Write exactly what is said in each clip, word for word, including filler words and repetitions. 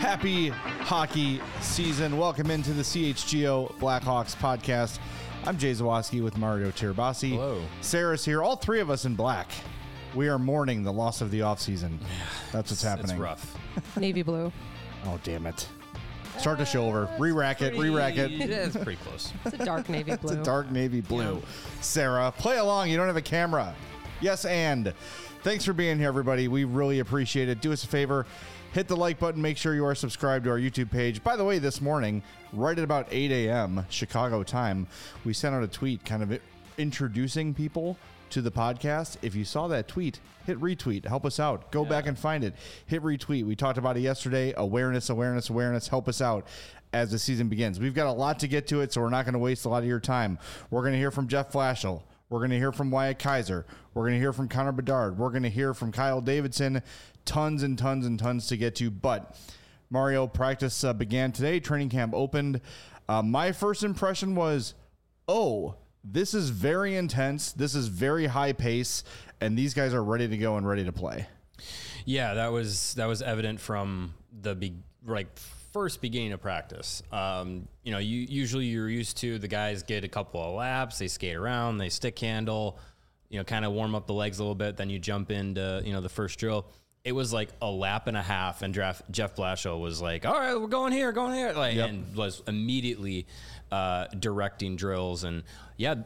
Happy hockey season. Welcome into the C H G O Blackhawks podcast. I'm Jay Zawoski with Mario Tirabassi. Hello. Sarah's here. All three of us in black. We are mourning the loss of the offseason. That's what's happening. It's rough. Navy blue. Oh, damn it. Start the show over. Re-rack it. Re-rack it. Yeah, it's pretty close. It's a dark navy blue. It's a dark navy blue. Yeah. Sarah, play along. You don't have a camera. Yes, and thanks for being here, everybody. We really appreciate it. Do us a favor. Hit the like button. Make sure you are subscribed to our YouTube page. By the way, this morning, right at about eight a.m. Chicago time, we sent out a tweet kind of introducing people to the podcast. If you saw that tweet, hit retweet. Help us out. Go yeah. back and find it. Hit retweet. We talked about it yesterday. Awareness, awareness, awareness. Help us out as the season begins. We've got a lot to get to it, so we're not going to waste a lot of your time. We're going to hear from Jeff Blashill. We're going to hear from Wyatt Kaiser. We're going to hear from Connor Bedard. We're going to hear from Kyle Davidson. Tons and tons and tons to get to. But Mario, practice uh, began today. Training camp opened. Uh, my first impression was, oh, this is very intense. This is very high pace. And these guys are ready to go and ready to play. Yeah, that was that was evident from the be- like first beginning of practice. Um, you know, you usually you're used to the guys get a couple of laps, they skate around, they stick handle, you know, kind of warm up the legs a little bit. Then you jump into, you know, the first drill. It was like a lap and a half, and Jeff, Jeff Blashill was like, all right, we're going here, going here. Like, yep. And was immediately uh, directing drills. And yeah,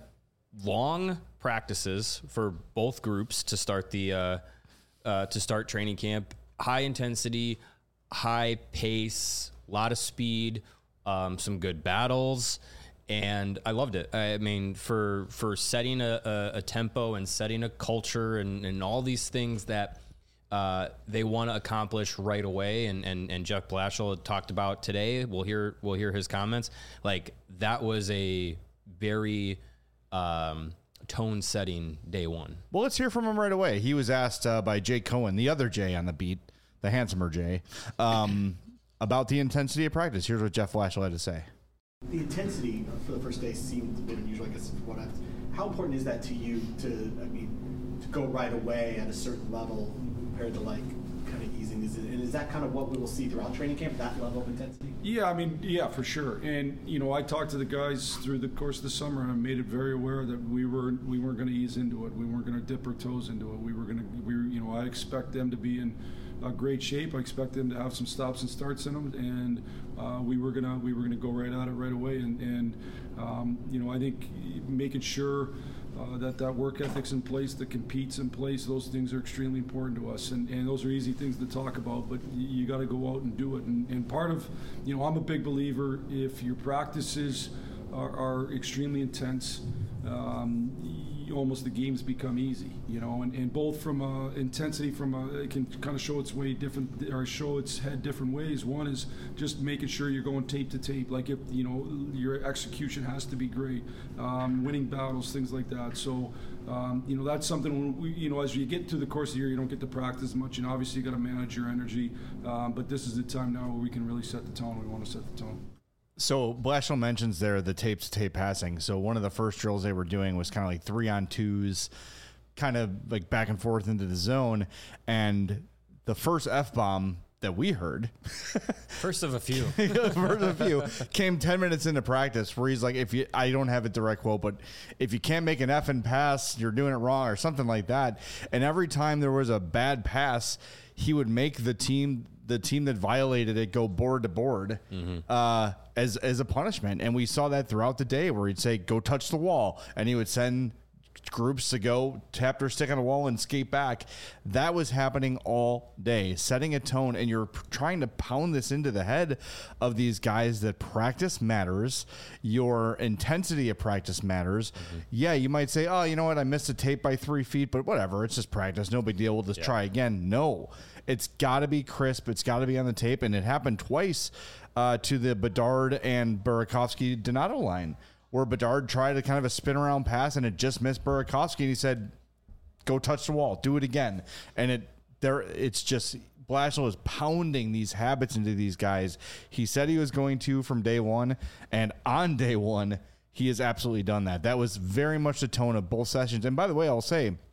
long practices for both groups to start the uh, uh, to start training camp. High intensity, high pace, a lot of speed, um, some good battles. And I loved it. I mean, for for setting a, a, a tempo and setting a culture and, and all these things that uh, they want to accomplish right away. And, and, and Jeff Blashill talked about today. We'll hear we'll hear his comments. Like, that was a very um, tone-setting day one. Well, let's hear from him right away. He was asked uh, by Jay Cohen, the other Jay on the beat, the handsomer Jay, um, about the intensity of practice. Here's what Jeff Blashill had to say. The intensity for the first day seemed a bit unusual, I guess, for what I was. How important is that to you to, I mean, to go right away at a certain level compared to, like, kind of easing? Is it, and is that kind of what we will see throughout training camp, that level of intensity? Yeah, I mean, yeah, for sure. And, you know, I talked to the guys through the course of the summer, and I made it very aware that we were we weren't going to ease into it. We weren't going to dip our toes into it. We were going to, we were, you know, I expect them to be in uh, great shape. I expect them to have some stops and starts in them, and uh, we were gonna we were gonna go right at it right away. And, and um, you know, I think making sure uh, that that work ethic's in place, that competes in place, those things are extremely important to us. And, and those are easy things to talk about, but you got to go out and do it. And, and part of, you know, I'm a big believer, if your practices are, are extremely intense, um, almost the games become easy, you know, and, and both from uh, intensity, from a, it can kind of show its way different, or show its head different ways. One is just making sure you're going tape to tape, like, if, you know, your execution has to be great, um, winning battles, things like that. So, um, you know, that's something when we, you know, as you get to the course of the year, you don't get to practice much, and obviously you got to manage your energy, um, but this is the time now where we can really set the tone. We want to set the tone. So Blashill mentions there the tape-to-tape passing. So one of the first drills they were doing was kind of like three-on-twos, kind of like back and forth into the zone. And the first F-bomb that we heard, first of a few, first of a few, came ten minutes into practice, where he's like, "If you, I don't have a direct quote, but if you can't make an effing pass, you're doing it wrong," or something like that. And every time there was a bad pass, he would make the team. the team that violated it go board to board mm-hmm. uh, as as a punishment. And we saw that throughout the day, where he'd say, go touch the wall. And he would send groups to go tap their stick on the wall and skate back. That was happening all day, setting a tone. And you're trying to pound this into the head of these guys that practice matters. Your intensity of practice matters. Mm-hmm. Yeah, you might say, oh, you know what? I missed a tape by three feet, but whatever. It's just practice. No big deal. We'll just yeah. try again. No, it's got to be crisp. It's got to be on the tape. And it happened twice uh, to the Bedard and Burakovsky Donato line, where Bedard tried a kind of a spin around pass and it just missed Burakovsky, and he said, go touch the wall, do it again. And it there it's just Blashill is pounding these habits into these guys. He said he was going to from day one, and on day one, he has absolutely done that. That was very much the tone of both sessions. And by the way, I'll say,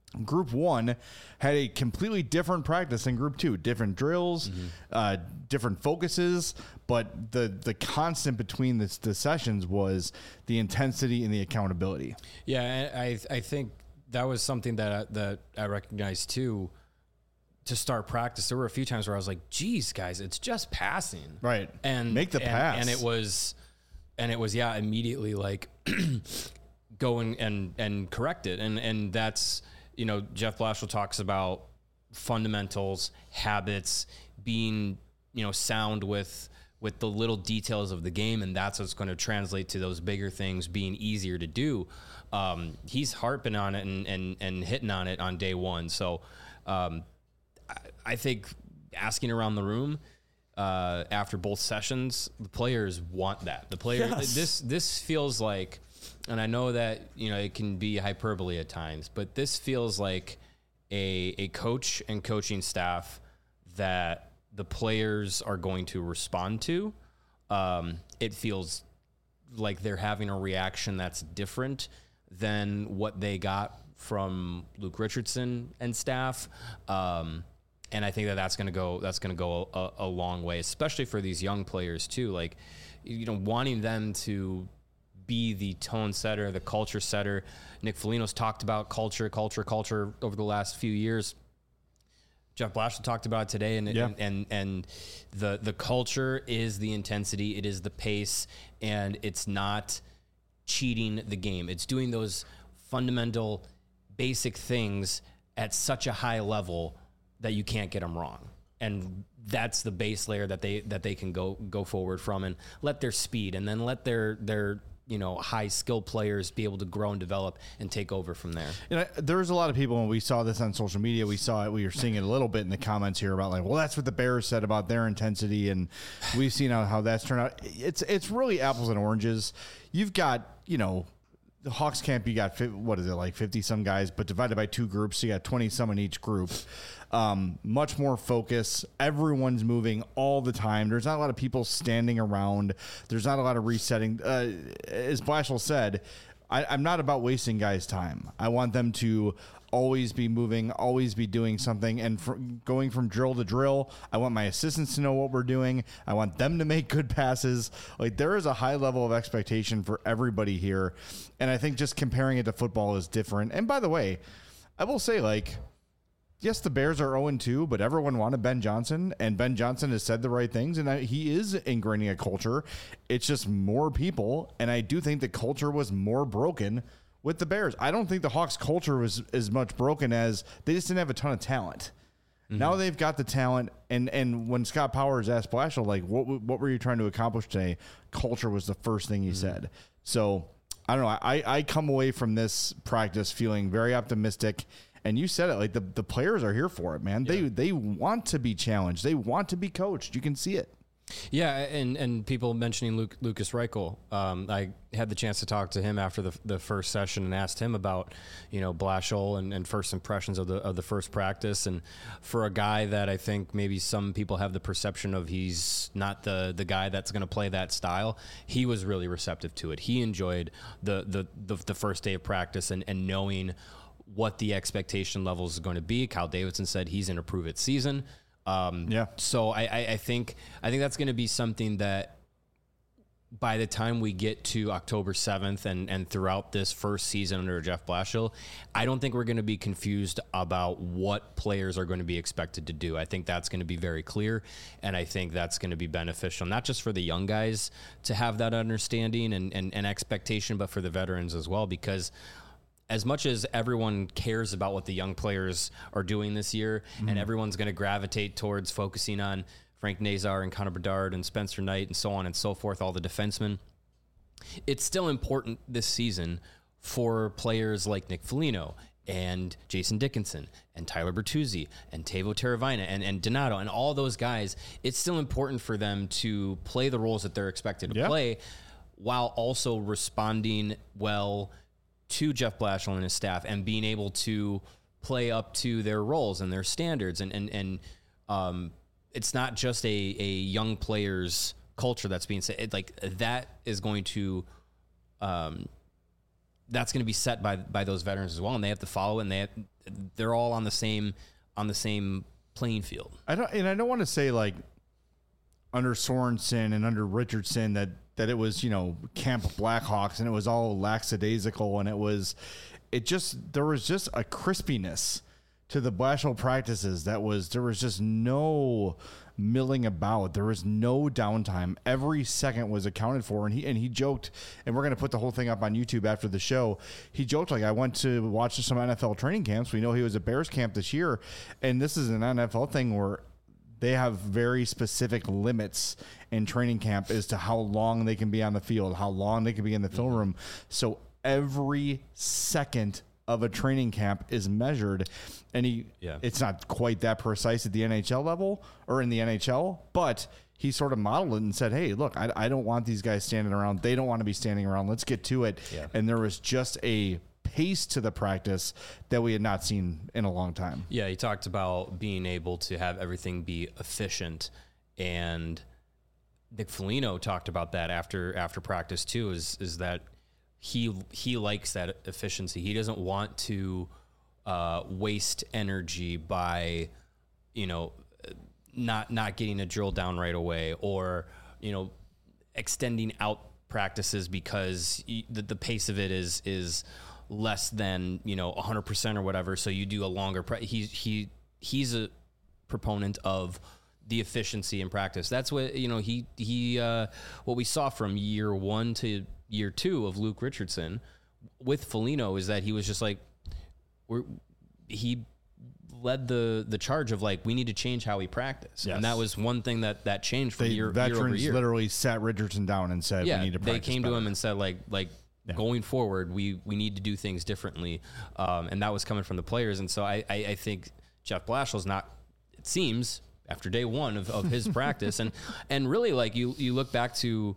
Group one had a completely different practice than group two, different drills, mm-hmm. uh, different focuses, but the the constant between the, the sessions was the intensity and the accountability. Yeah, I I think that was something that that I recognized too. To start practice, there were a few times where I was like, "Geez, guys, it's just passing." Right. And make the and, pass. And it was, and it was yeah, immediately like going and and correct it, and and that's. You know, Jeff Blashill talks about fundamentals, habits, being, you know, sound with with the little details of the game, and that's what's going to translate to those bigger things being easier to do. Um, he's harping on it and, and, and hitting on it on day one. So um, I, I think asking around the room uh, after both sessions, the players want that. The players, yes. this this feels like... And I know that, you know, it can be hyperbole at times, but this feels like a a coach and coaching staff that the players are going to respond to. Um, it feels like they're having a reaction that's different than what they got from Luke Richardson and staff. Um, and I think that that's going to go that's going to go a, a long way, especially for these young players too. Like, you know, wanting them to be the tone setter, the culture setter. Nick Foligno's talked about culture, culture, culture over the last few years. Jeff Blashill talked about it today, and yeah. and, and and the the culture is the intensity, it is the pace, and it's not cheating the game. It's doing those fundamental, basic things at such a high level that you can't get them wrong. And that's the base layer that they that they can go go forward from, and let their speed, and then let their their you know, high skill players be able to grow and develop and take over from there. You know, there's a lot of people, when we saw this on social media, we saw it, we were seeing it a little bit in the comments here about like, well, that's what the Bears said about their intensity. And we've seen how, how that's turned out. It's, it's really apples and oranges. You've got, you know, the Hawks camp, you got, what is it, like fifty some guys, but divided by two groups, so you got twenty some in each group. Um, much more focus. Everyone's moving all the time. There's not a lot of people standing around. There's not a lot of resetting. Uh, as Blashill said, I, I'm not about wasting guys' time. I want them to always be moving, always be doing something. And for going from drill to drill, I want my assistants to know what we're doing. I want them to make good passes. Like, there is a high level of expectation for everybody here. And I think just comparing it to football is different. And by the way, I will say, like, yes, the Bears are oh and two, but everyone wanted Ben Johnson, and Ben Johnson has said the right things, and I, he is ingraining a culture. It's just more people, and I do think the culture was more broken with the Bears. I don't think the Hawks' culture was as much broken as they just didn't have a ton of talent. Mm-hmm. Now they've got the talent, and, and when Scott Powers asked Blashill, like, what what were you trying to accomplish today? Culture was the first thing he mm-hmm. said. So, I don't know. I, I come away from this practice feeling very optimistic. And you said it, like the, the players are here for it, man. Yeah. They they want to be challenged. They want to be coached. You can see it. Yeah, and, and people mentioning Luke, Lucas Reichel. Um, I had the chance to talk to him after the the first session and asked him about, you know, Blashill and, and first impressions of the of the first practice. And for a guy that I think maybe some people have the perception of he's not the the guy that's going to play that style, he was really receptive to it. He enjoyed the the the, the first day of practice and, and knowing what the expectation levels is going to be. Kyle Davidson said he's in a prove it season. Um, yeah. So I, I, I think I think that's going to be something that by the time we get to October seventh and, and throughout this first season under Jeff Blashill, I don't think we're going to be confused about what players are going to be expected to do. I think that's going to be very clear, and I think that's going to be beneficial, not just for the young guys to have that understanding and, and, and expectation, but for the veterans as well, because as much as everyone cares about what the young players are doing this year, mm-hmm. and everyone's going to gravitate towards focusing on Frank Nazar and Connor Bedard and Spencer Knight and so on and so forth, all the defensemen, it's still important this season for players like Nick Foligno and Jason Dickinson and Tyler Bertuzzi and Teuvo Teravainen and, and Donato and all those guys. It's still important for them to play the roles that they're expected to yep. play while also responding well to Jeff Blashill and his staff and being able to play up to their roles and their standards. And, and, and um, it's not just a, a young player's culture that's being said. Like, that is going to um, that's going to be set by by those veterans as well, and they have to follow, and they have, they're all on the same on the same playing field. I don't, and I don't want to say like under Sorensen and under Richardson that that it was, you know, Camp Blackhawks and it was all lackadaisical and it was, it just, there was just a crispiness to the Blashill practices that was, there was just no milling about. There was no downtime. Every second was accounted for. And he, and he joked, and we're going to put the whole thing up on YouTube after the show. He joked like, I went to watch some N F L training camps. We know he was at Bears camp this year. And this is an N F L thing where they have very specific limits in training camp as to how long they can be on the field, how long they can be in the film room. So every second of a training camp is measured, and he, yeah. it's not quite that precise at the N H L level or in the N H L, but he sort of modeled it and said, hey, look, I, I don't want these guys standing around. They don't want to be standing around. Let's get to it. Yeah. And there was just a pace to the practice that we had not seen in a long time. Yeah, he talked about being able to have everything be efficient, and Nick Foligno talked about that after after practice too, is is that he he likes that efficiency. He doesn't want to uh, waste energy by, you know, not not getting a drill down right away, or, you know, extending out practices because he, the, the pace of it is is less than, you know, one hundred percent or whatever, so you do a longer pre- he he he's a proponent of the efficiency in practice. That's what, you know, he he uh what we saw from year one to year two of Luke Richardson with Foligno is that he was just like, we're he led the the charge of like, we need to change how we practice. Yes. And that was one thing that that changed from they, year, veterans year over year. Literally sat Richardson down and said, yeah, we need to practice they came better. to him and said like like Yeah. going forward, we we need to do things differently, um, and that was coming from the players. And so I, I, I think Jeff Blashill's not, it seems, after day one of, of his practice, and and really, like, you you look back to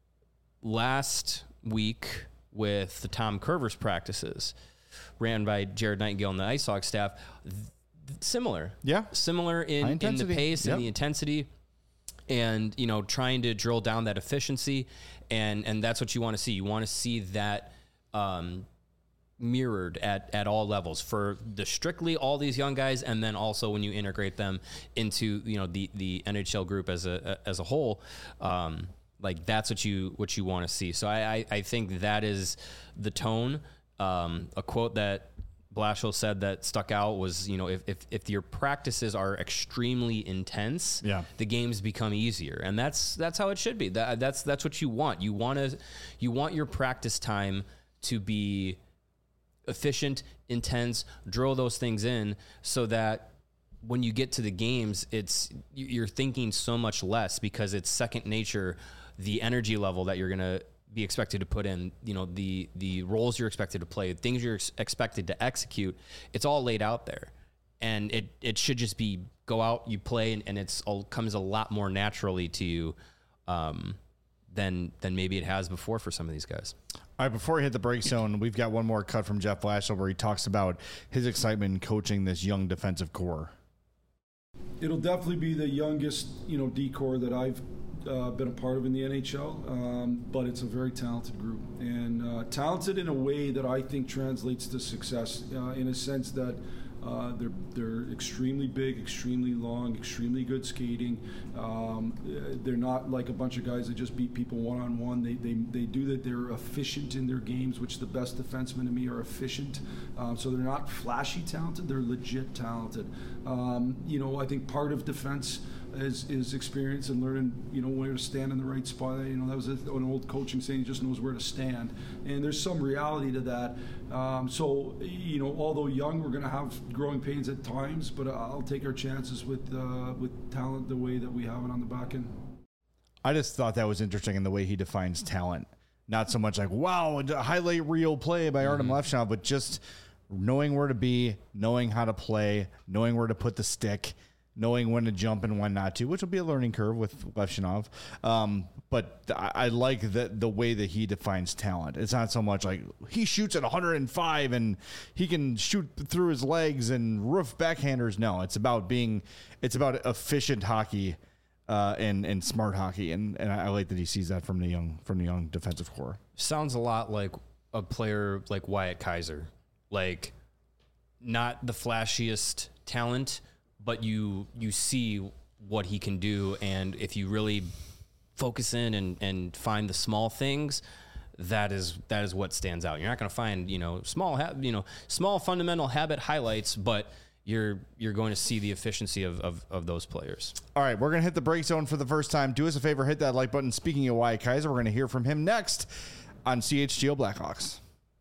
last week with the Tom Curvers practices ran by Jared Nightingale and the Ice Hawks staff, th- similar, yeah, similar in, in the pace yep. and the intensity. And, you know, trying to drill down that efficiency, and and that's what you want to see. You want to see that um, mirrored at, at all levels for the strictly all these young guys, and then also when you integrate them into, you know, the, the N H L group as a as a whole. Um, like that's what you what you want to see. So I, I I think that is the tone. Um, a quote that Blashill said that stuck out was, you know, if, if, if your practices are extremely intense, yeah. the games become easier. And that's, that's how it should be. That, that's, that's what you want. You want to, you want your practice time to be efficient, intense, drill those things in so that when you get to the games, it's, you're thinking so much less because it's second nature, the energy level that you're going to be expected to put in, you know, the the roles you're expected to play, things you're ex- expected to execute, it's all laid out there. And it it should just be go out, you play, and, and it's all comes a lot more naturally to you um, than than maybe it has before for some of these guys. All right, before we hit the break zone, we've got one more cut from Jeff Blashill where he talks about his excitement in coaching this young defensive core. It'll definitely be the youngest, you know, D-corps that I've Uh, been a part of in the N H L, um, but it's a very talented group, and uh, talented in a way that I think translates to success, uh, in a sense that uh, they're they're extremely big, extremely long, extremely good skating. Um, they're not like a bunch of guys that just beat people one on one. They they they do that. They're efficient in their games, which the best defensemen to me are efficient. Um, so they're not flashy talented. They're legit talented. Um, you know, I think part of defense is is experience and learning, you know, where to stand in the right spot. You know, that was an old coaching saying, he just knows where to stand. And there's some reality to that. Um, so, you know, although young, we're going to have growing pains at times, but I'll take our chances with uh, with talent the way that we have it on the back end. I just thought that was interesting in the way he defines talent. Not so much like, wow, a highlight reel play by Artem mm-hmm. Lefshon, but just knowing where to be, knowing how to play, knowing where to put the stick, knowing when to jump and when not to, which will be a learning curve with Levshinov. Um, but I, I like the, the way that he defines talent. It's not so much like he shoots at one hundred five and he can shoot through his legs and roof backhanders. No, it's about being, it's about efficient hockey uh, and, and smart hockey. And, and I like that he sees that from the young, from the young defensive core. Sounds a lot like a player like Wyatt Kaiser, like not the flashiest talent, but you you see what he can do, and if you really focus in and, and find the small things, that is that is what stands out. You're not going to find you know small ha- you know small fundamental habit highlights, but you're you're going to see the efficiency of, of, of those players. All right, we're going to hit the break zone for the first time. Do us a favor, hit that like button. Speaking of Wyatt Kaiser, we're going to hear from him next on C H G O Blackhawks.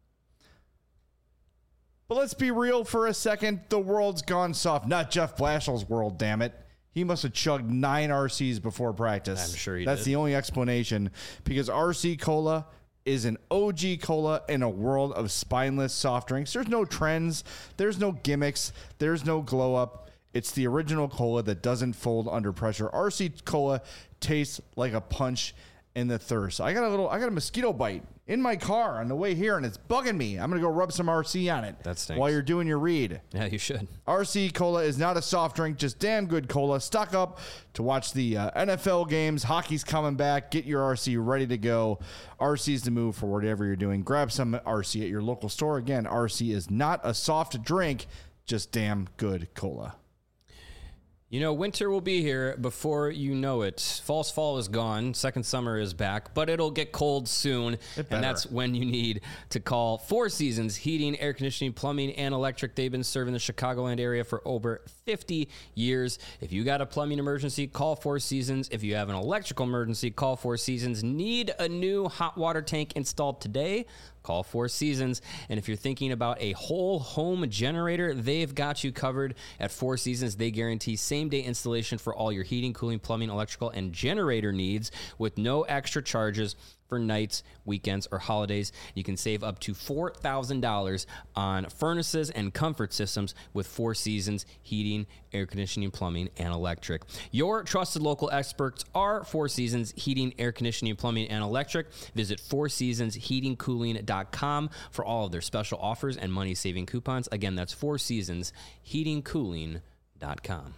But let's be real for a second. The world's gone soft. Not Jeff Blashill's world, damn it. He must have chugged nine R Cs before practice. I'm sure he That's did. the only explanation, because R C Cola is an O G cola in a world of spineless soft drinks. There's no trends. There's no gimmicks. There's no glow up. It's the original cola that doesn't fold under pressure. R C Cola tastes like a punch in the thirst. I got a little, I got a mosquito bite in my car on the way here, and it's bugging me. I'm going to go rub some R C on it. That stinks. While you're doing your read. Yeah, you should. R C Cola is not a soft drink, just damn good cola. Stock up to watch the uh, N F L games. Hockey's coming back. Get your R C ready to go. R C's the move for whatever you're doing. Grab some R C at your local store. Again, R C is not a soft drink, just damn good cola. You know, winter will be here before you know it. False fall is gone. Second summer is back, but it'll get cold soon. And that's when you need to call Four Seasons Heating, Air Conditioning, Plumbing, and Electric. They've been serving the Chicagoland area for over fifty years. If you got a plumbing emergency, call Four Seasons. If you have an electrical emergency, call Four Seasons. Need a new hot water tank installed today? Call Four Seasons. And if you're thinking about a whole home generator, they've got you covered at Four Seasons. They guarantee same-day installation for all your heating, cooling, plumbing, electrical, and generator needs with no extra charges for nights, weekends, or holidays. You can save up to four thousand dollars on furnaces and comfort systems with Four Seasons Heating, Air Conditioning, Plumbing, and Electric. Your trusted local experts are Four Seasons Heating, Air Conditioning, Plumbing, and Electric. Visit four seasons heating cooling dot com for all of their special offers and money-saving coupons. Again, that's four seasons heating cooling dot com.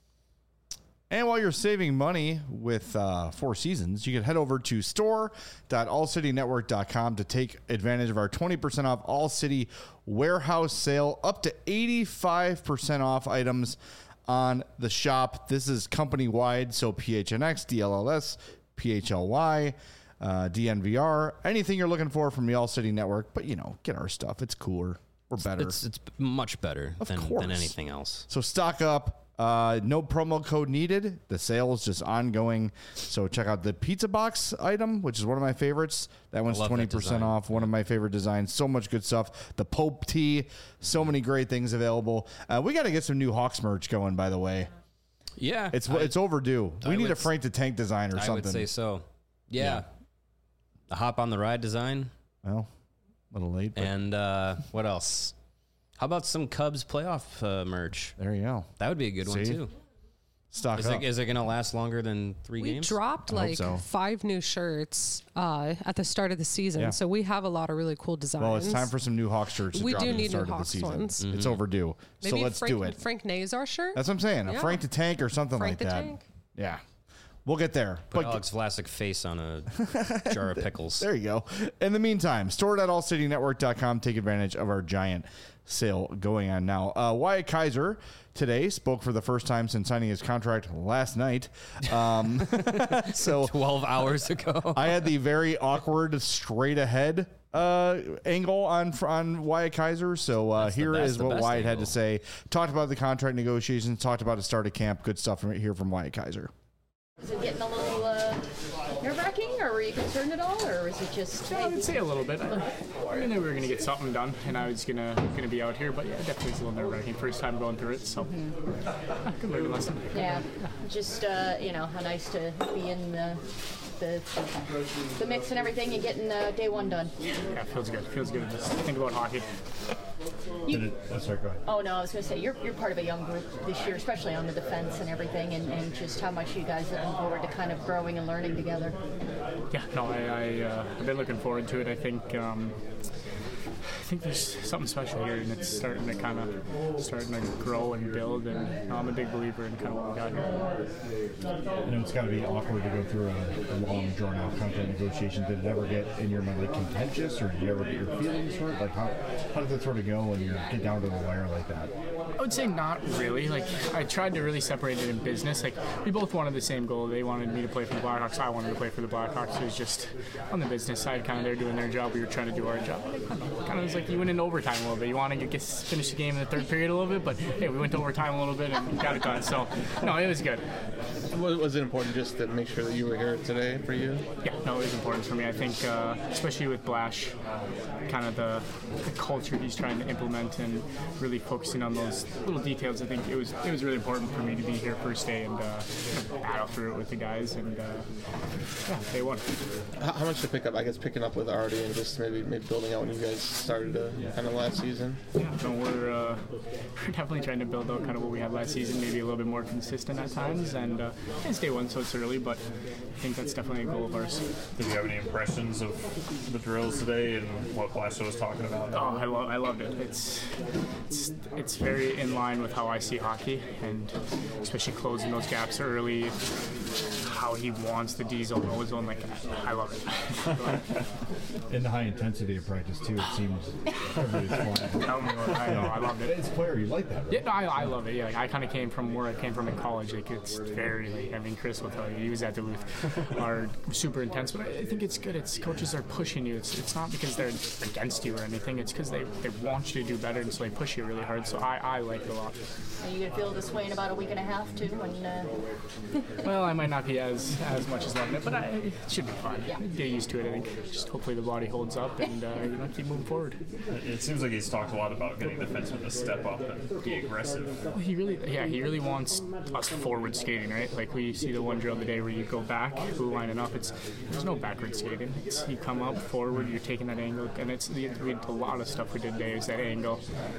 And while you're saving money with uh, Four Seasons, you can head over to store dot all city network dot com to take advantage of our twenty percent off All City warehouse sale, up to eighty-five percent off items on the shop. This is company-wide, so P H N X, D L L S, P H L Y, uh, D N V R, anything you're looking for from the All City Network. But, you know, get our stuff. It's cooler. We're better. It's, it's much better Of than, course. than anything else. So stock up. Uh, no promo code needed. The sale is just ongoing. So check out the pizza box item, which is one of my favorites. That one's love that twenty percent design. off. One of my favorite designs. So much good stuff. The Pope tee. So many great things available. Uh, we got to get some new Hawks merch going, by the way. Yeah. It's I- it's overdue. I We need would a Frank the Tank design or I something. would say so. Yeah. Yeah. The hop on the ride design. Well, a little late, but And uh, what else? How about some Cubs playoff uh, merch? there you go. That would be a good one See? too. Stock Is up. it, is it going to last longer than three We games? dropped I hope like so. five new shirts uh, at the start of the season, Yeah. so we have a lot of really cool designs. well, it's time for some new Hawks shirts to We drop do at the need start new of the Hawks season. ones. It's overdue. Maybe so let's Frank, do it. Frank Nazar shirt. That's what I'm saying. A Yeah. Frank the Tank or something Frank like the that. Tank. Yeah. We'll get there. Put But Alex Vlasic face on a jar of pickles. there you go. In the meantime, store dot all city network dot com. Take advantage of our giant sale going on now. Uh, Wyatt Kaiser today spoke for the first time since signing his contract last night. Um, so twelve hours ago. I had the very awkward straight ahead uh, angle on on Wyatt Kaiser. So uh, That's the here best- is the what best Wyatt had angle. to say. Talked about the contract negotiations. Talked about the start of camp. Good stuff from here from Wyatt Kaiser. Was it getting a little uh, nerve-wracking, or were you concerned at all, or was it just? Yeah, I would say a little bit. I, I knew we were going to get something done, and I was gonna gonna be out here. But yeah, definitely it's a little nerve-wracking. First time going through it, so ah, good learning lesson. Yeah, just uh, you know, how nice to be in the the, the mix and everything and getting uh, day one done. Yeah, feels good. Feels good. Just think about hockey. You, Sorry, go ahead. oh no, I was going to say you're you're part of a young group this year, especially on the defense and everything, and, and just how much you guys are looking forward to kind of growing and learning together. Yeah, no, I, I uh, I've been looking forward to it. I think um, think there's something special here, and it's starting to kind of starting to grow and build. And you know, I'm a big believer in kind of what we got here. I know it's got to be awkward to go through a, a long, drawn-out contract negotiation. Did it ever get in your mind like contentious, or did you ever get your feelings hurt? Like how how does it sort of go when you get down to the wire like that? I would say not really. Like I tried to really separate it in business. Like we both wanted the same goal. They wanted me to play for the Blackhawks. I wanted to play for the Blackhawks. It was just on the business side, kind of they're doing their job. We were trying to do our job. Kind of was like you went into overtime a little bit. You want to get finish the game in the third period a little bit, but hey, we went to overtime a little bit and got it done. So no, it was good. Was it important just to make sure that you were here today for you? Yeah, no, it was important for me. I think, uh, especially with Blash, kind of the, the culture he's trying to implement and really focusing on those little details. I think it was it was really important for me to be here first day and uh, kind of battle through it with the guys. And uh, yeah, day one. How, how much to pick up? I guess picking up with Artie and just maybe maybe building out when you guys started uh, kind of last season. Yeah, no, we're uh, we're definitely trying to build out kind of what we had last season, maybe a little bit more consistent at times. And uh, it's day one, so it's early, but I think that's definitely a goal of ours. Did you have any impressions of the drills today and what Blashill was talking about? Oh, I, lo- I loved it. It's, it's it's very in line with how I see hockey, and especially closing those gaps early, how he wants the D zone, O zone. Like, I love it. In the high intensity of practice too, it seems everybody's flying. Tell me what, I know, I loved it. It's player, you like that, right? Yeah, no, I, I love it. Yeah, like, I kind of came from where I came from in college. Like, it's very, like, I mean, Chris will tell you, he was at Duluth, are super intense, but I, I think it's good. It's coaches are pushing you. It's it's not because they're against you or anything. It's because they, they want you to do better, and so they push you really hard. So I, I like it a lot. Are you gonna feel this way in about a week and a half too? When uh... Well, I might not be as as much as loving it, but I, it should be fine. Yeah. Get used to it. I think just hopefully the body holds up and uh, you know, keep moving forward. It seems like he's talked a lot about getting defensemen to step up and be aggressive. Well, he really, yeah, he really wants us forward skating, right? Like we see the one drill today where you go back, blue lining up. It's there's no backward skating. It's you come up forward, you're taking that angle, and it's the we a lot of stuff we did today is that angle.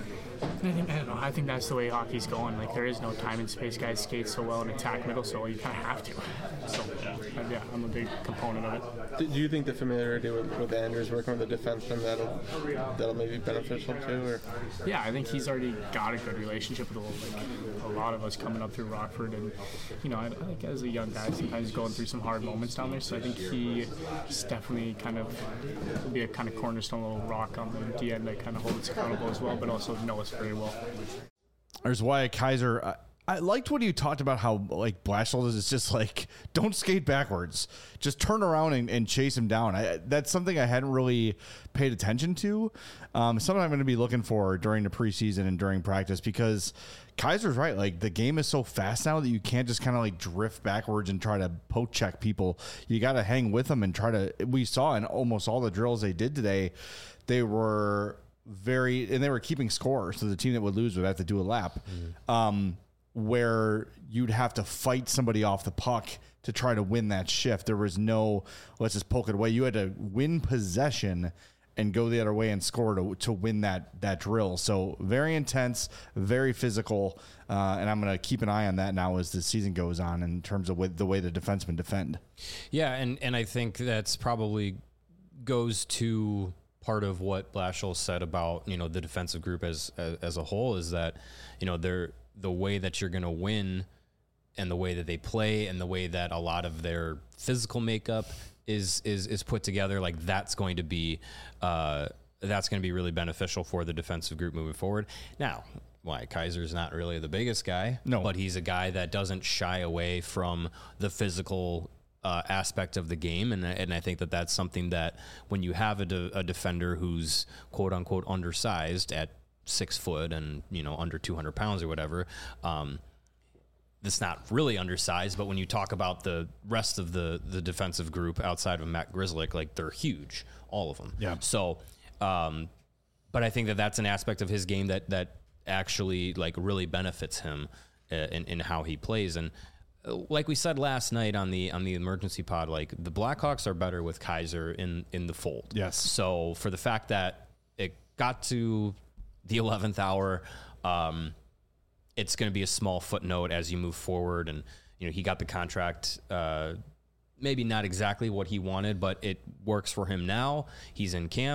And I think I don't know. I think that's the way hockey's going. Like there is no time and space. Guys skate so well and attack middle, so you kind of have to. So yeah, yeah, I'm a big component of it. Do you think the familiarity with, with Andrews working with the defenseman that'll that'll maybe be beneficial too? Or? Yeah, I think he's already got a good relationship with like, a lot of us coming up through Rockford, and you know, I, I think as a young guy, sometimes going through some hard moments down there. So I think he is definitely kind of will be a kind of cornerstone little rock on the D end that kind of hold us accountable as well, but also know us very well. There's Wyatt Kaiser. I, I liked what you talked about how like Blashill is just like don't skate backwards, just turn around and, and chase him down. I, that's something I hadn't really paid attention to. Um, something I'm going to be looking for during the preseason and during practice because Kaiser's right. Like the game is so fast now that you can't just kind of like drift backwards and try to poke check people. You got to hang with them and try to. We saw in almost all the drills they did today, they were very and they were keeping score. So the team that would lose would have to do a lap. Mm-hmm. Um, where you'd have to fight somebody off the puck to try to win that shift. There was no, let's just poke it away. You had to win possession and go the other way and score to to win that that drill. So very intense, very physical, uh, and I'm going to keep an eye on that now as the season goes on in terms of with the way the defensemen defend. Yeah, and, and I think that's probably goes to part of what Blashill said about, you know, the defensive group as, as, as a whole is that, you know, they're, the way that you're going to win and the way that they play and the way that a lot of their physical makeup is, is, is put together. Like that's going to be, uh, that's going to be really beneficial for the defensive group moving forward. Now, why Kaiser's not really the biggest guy, no, but he's a guy that doesn't shy away from the physical uh, aspect of the game. And, and I think that that's something that when you have a, de- a defender who's quote unquote undersized at six foot and, you know, under two hundred pounds or whatever, um, that's not really undersized, but when you talk about the rest of the, the defensive group outside of Matt Grzelcyk, like they're huge, all of them. Yeah. So, um, but I think that that's an aspect of his game that, that actually like really benefits him uh, in, in how he plays. And uh, like we said last night on the, on the emergency pod, like the Blackhawks are better with Kaiser in, in the fold. Yes. So for the fact that it got to the eleventh hour, um, it's going to be a small footnote as you move forward. And, you know, he got the contract, uh, maybe not exactly what he wanted, but it works for him now. He's in camp.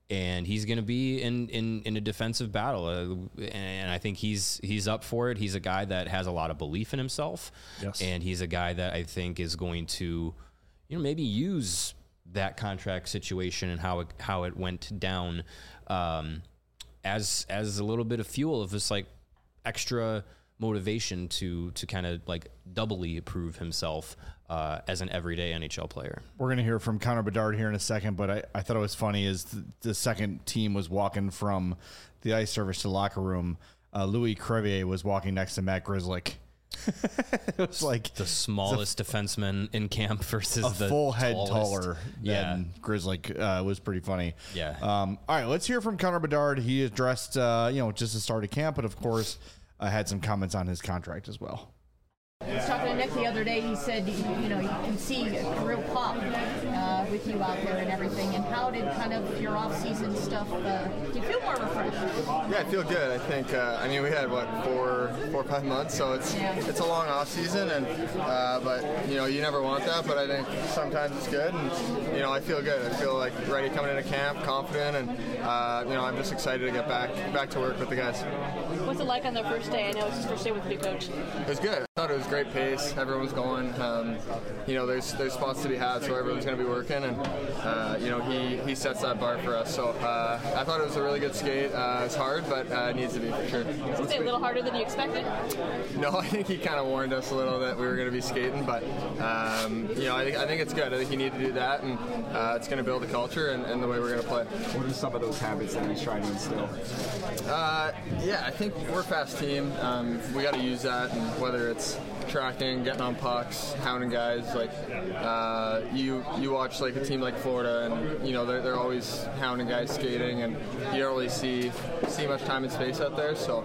and he's going to be in, in, in a defensive battle. Uh, and I think he's, he's up for it. He's a guy that has a lot of belief in himself. Yes. And he's a guy that I think is going to, you know, maybe use that contract situation and how it, how it went down, um, as, as a little bit of fuel of this like extra motivation to, to kind of like doubly prove himself, uh, as an everyday N H L player. We're going to hear from Connor Bedard here in a second, but I, I thought it was funny as the, the second team was walking from the ice service to the locker room. Uh, Louis Crevier was walking next to Matt Grzelcyk. It was like the smallest defenseman in camp versus a the full head tallest. taller Yeah. than Grzelcyk. Uh, was pretty funny. Yeah. Um, all right, let's hear from Connor Bedard. He addressed, uh, you know, just the start of camp, but of course, uh, had some comments on his contract as well. I was talking to Nick the other day. He said, you, you know, you can see a real pop uh, with you out there and everything. And how did kind of your off-season stuff? Uh, do you feel more refreshed? Yeah, I feel good. I think. Uh, I mean, we had what four, four or five months, so it's Yeah. it's a long off season, and uh, but you know, you never want that. But I think sometimes it's good, and you know, I feel good. I feel like ready coming into camp, confident, and uh, you know, I'm just excited to get back back to work with the guys. What's it like on the first day? I know it's his first day with the new coach. It was good. I thought it was great pace. Everyone's going. Um, you know, there's there's spots to be had, so everyone's going to be working, and uh, you know, he, he sets that bar for us. So uh, I thought it was a really good skate. Uh, it's hard, but uh, it needs to be for sure. Was it a little harder than you expected? No, I think he kind of warned us a little that we were going to be skating, but um, you know, I think I think it's good. I think you need to do that, and uh, it's going to build a culture and, and the way we're going to play. What are some of those habits that he's trying to instill? Uh, yeah, I think we're a fast team. Um, we got to use that, and whether it's tracking, getting on pucks, hounding guys, like uh, you you watch like a team like Florida, and you know they're, they're always hounding guys skating, and you don't really see see much time and space out there. So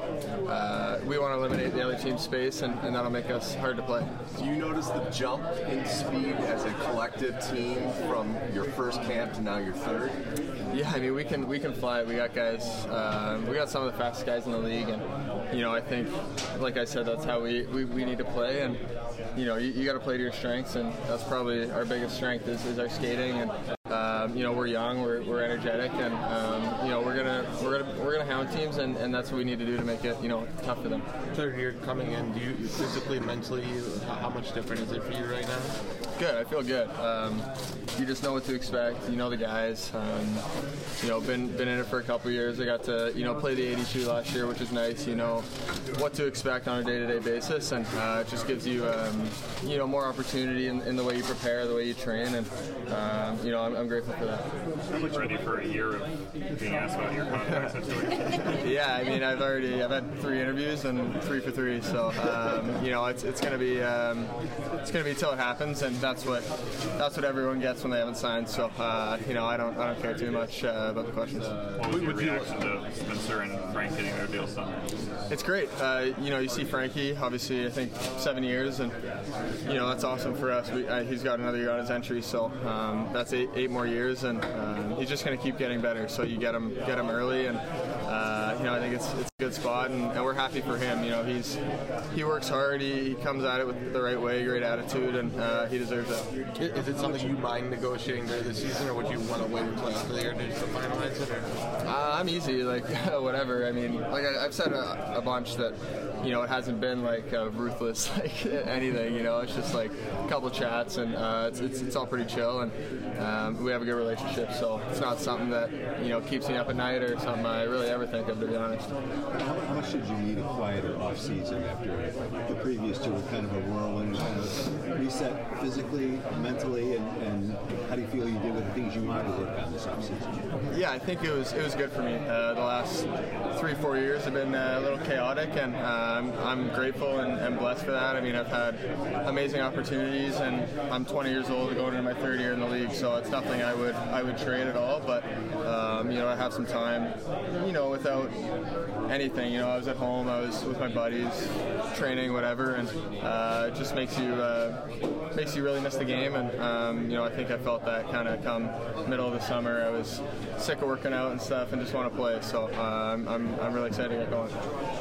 uh, we want to eliminate the other team's space, and, and that'll make us hard to play. Do you notice the jump in speed as a collective team from your first camp to now your third? Yeah, I mean we can we can fly. We got guys. Uh, we got some of the fastest guys in the league, and you know I think, like I said, that's how we, we, we need to play. And you know you, you got to play to your strengths, and that's probably our biggest strength is, is our skating. And um, you know we're young, we're, we're energetic, and um, you know we're gonna we're gonna we're gonna hound teams, and, and that's what we need to do to make it you know tough for them. Third year coming in, do you physically, mentally, how, how much different is it for you right now? Good, I feel good. Um, you just know what to expect. You know the guys. Um, you know, been been in it for a couple years. I got to you know play the eighty-two last year, which is nice. You know what to expect on a day-to-day basis, and uh, it just gives you um, you know more opportunity in, in the way you prepare, the way you train, and um, you know I'm, I'm grateful for that. Are you ready for a year of being asked about your contract situation? Yeah, I mean I've already I've had three interviews and three for three, so um, you know it's it's gonna be um, it's gonna be till it happens, and that's what that's what everyone gets when they haven't signed. So uh, you know I don't I don't care too much uh, about the questions. What was your reaction to Spencer and Frank getting their deals done? It's great. Uh, you know, you see Frankie, obviously, I think seven years, and you know that's awesome for us. We, uh, he's got another year on his entry, so um, that's eight, eight more years, and um, he's just going to keep getting better. So you get him, get him early, and uh, you know I think it's it's a good spot, and, and we're happy for him. You know, he's he works hard, he, he comes at it with the right way, great attitude, and uh, he deserves it. Is it something you mind negotiating during the season, or would you want to wait until after the year to finalize it? Or? Uh, I'm easy, like whatever. I mean, like I, I've said a, a bunch that you know it hasn't been like uh, ruthless, like anything. You know, it's just like a couple chats, and uh, it's, it's it's all pretty chill, and um, we have a good relationship. So it's not something that you know keeps me up at night or something I really ever think of, to be honest. How, how much did you need a quieter off season after the previous two were kind of a whirlwind, kind of reset physically, mentally, and, and how do you feel you did with the things you wanted to work on this off season? Yeah, I think it was it was good for me. Uh, the last three four years have been uh, a little chaotic, and um, I'm grateful and, and blessed for that. I mean, I've had amazing opportunities, and I'm twenty years old, going into my third year in the league, so it's nothing I would I would trade at all. But um, you know, I have some time, you know, without anything. You know, I was at home, I was with my buddies, training, whatever, and uh, it just makes you uh, makes you really miss the game. And um, you know, I think I felt that kind of come middle of the summer. I was sick of working out and stuff, and just want to play. So uh, I'm, I'm I'm really excited to get going.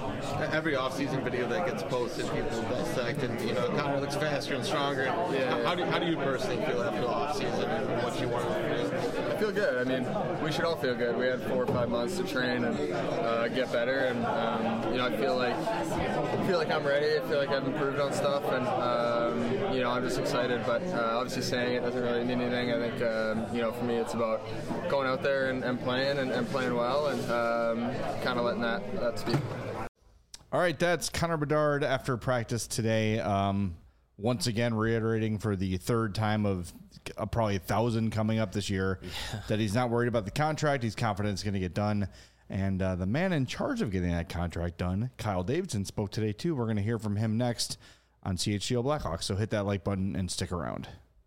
Every off-season video that gets posted, people dissect, and you know, Connor looks faster and stronger. Yeah. How, how do how do you personally feel after the off-season and what you want to do? feel good. I mean, we should all feel good. We had four or five months to train and uh, get better, and um, you know, I feel like I feel like I'm ready. I feel like I've improved on stuff, and um, you know, I'm just excited. But uh, obviously, saying it doesn't really mean anything. I think um, you know, for me, it's about going out there and, and playing and, and playing well, and um, kind of letting that that speak. All right, that's Connor Bedard after practice today. Um, once again, reiterating for the third time of uh, probably a thousand coming up this year yeah. that he's not worried about the contract. He's confident it's going to get done. And uh, the man in charge of getting that contract done, Kyle Davidson, spoke today too. We're going to hear from him next on C H G O Blackhawks. So hit that like button and stick around.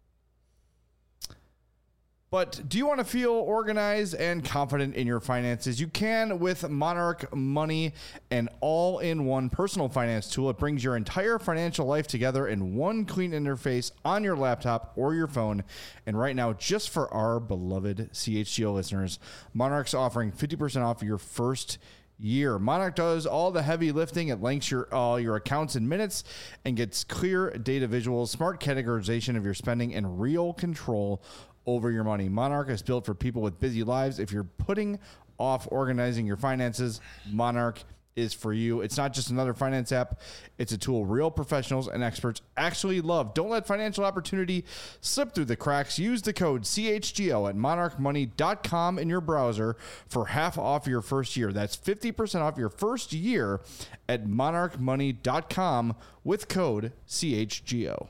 But do you want to feel organized and confident in your finances? You can with Monarch Money, an all-in-one personal finance tool. It brings your entire financial life together in one clean interface on your laptop or your phone. And right now, just for our beloved C H G O listeners, Monarch's offering fifty percent off your first year. Monarch does all the heavy lifting. It links your all your accounts in minutes and gets clear data visuals, smart categorization of your spending, and real control over your money. Monarch is built for people with busy lives. If you're putting off organizing your finances, Monarch is for you. It's not just another finance app. It's a tool real professionals and experts actually love. Don't let financial opportunity slip through the cracks. Use the code C H G O at monarch money dot com in your browser for half off your first year. That's fifty percent off your first year at monarch money dot com with code C H G O.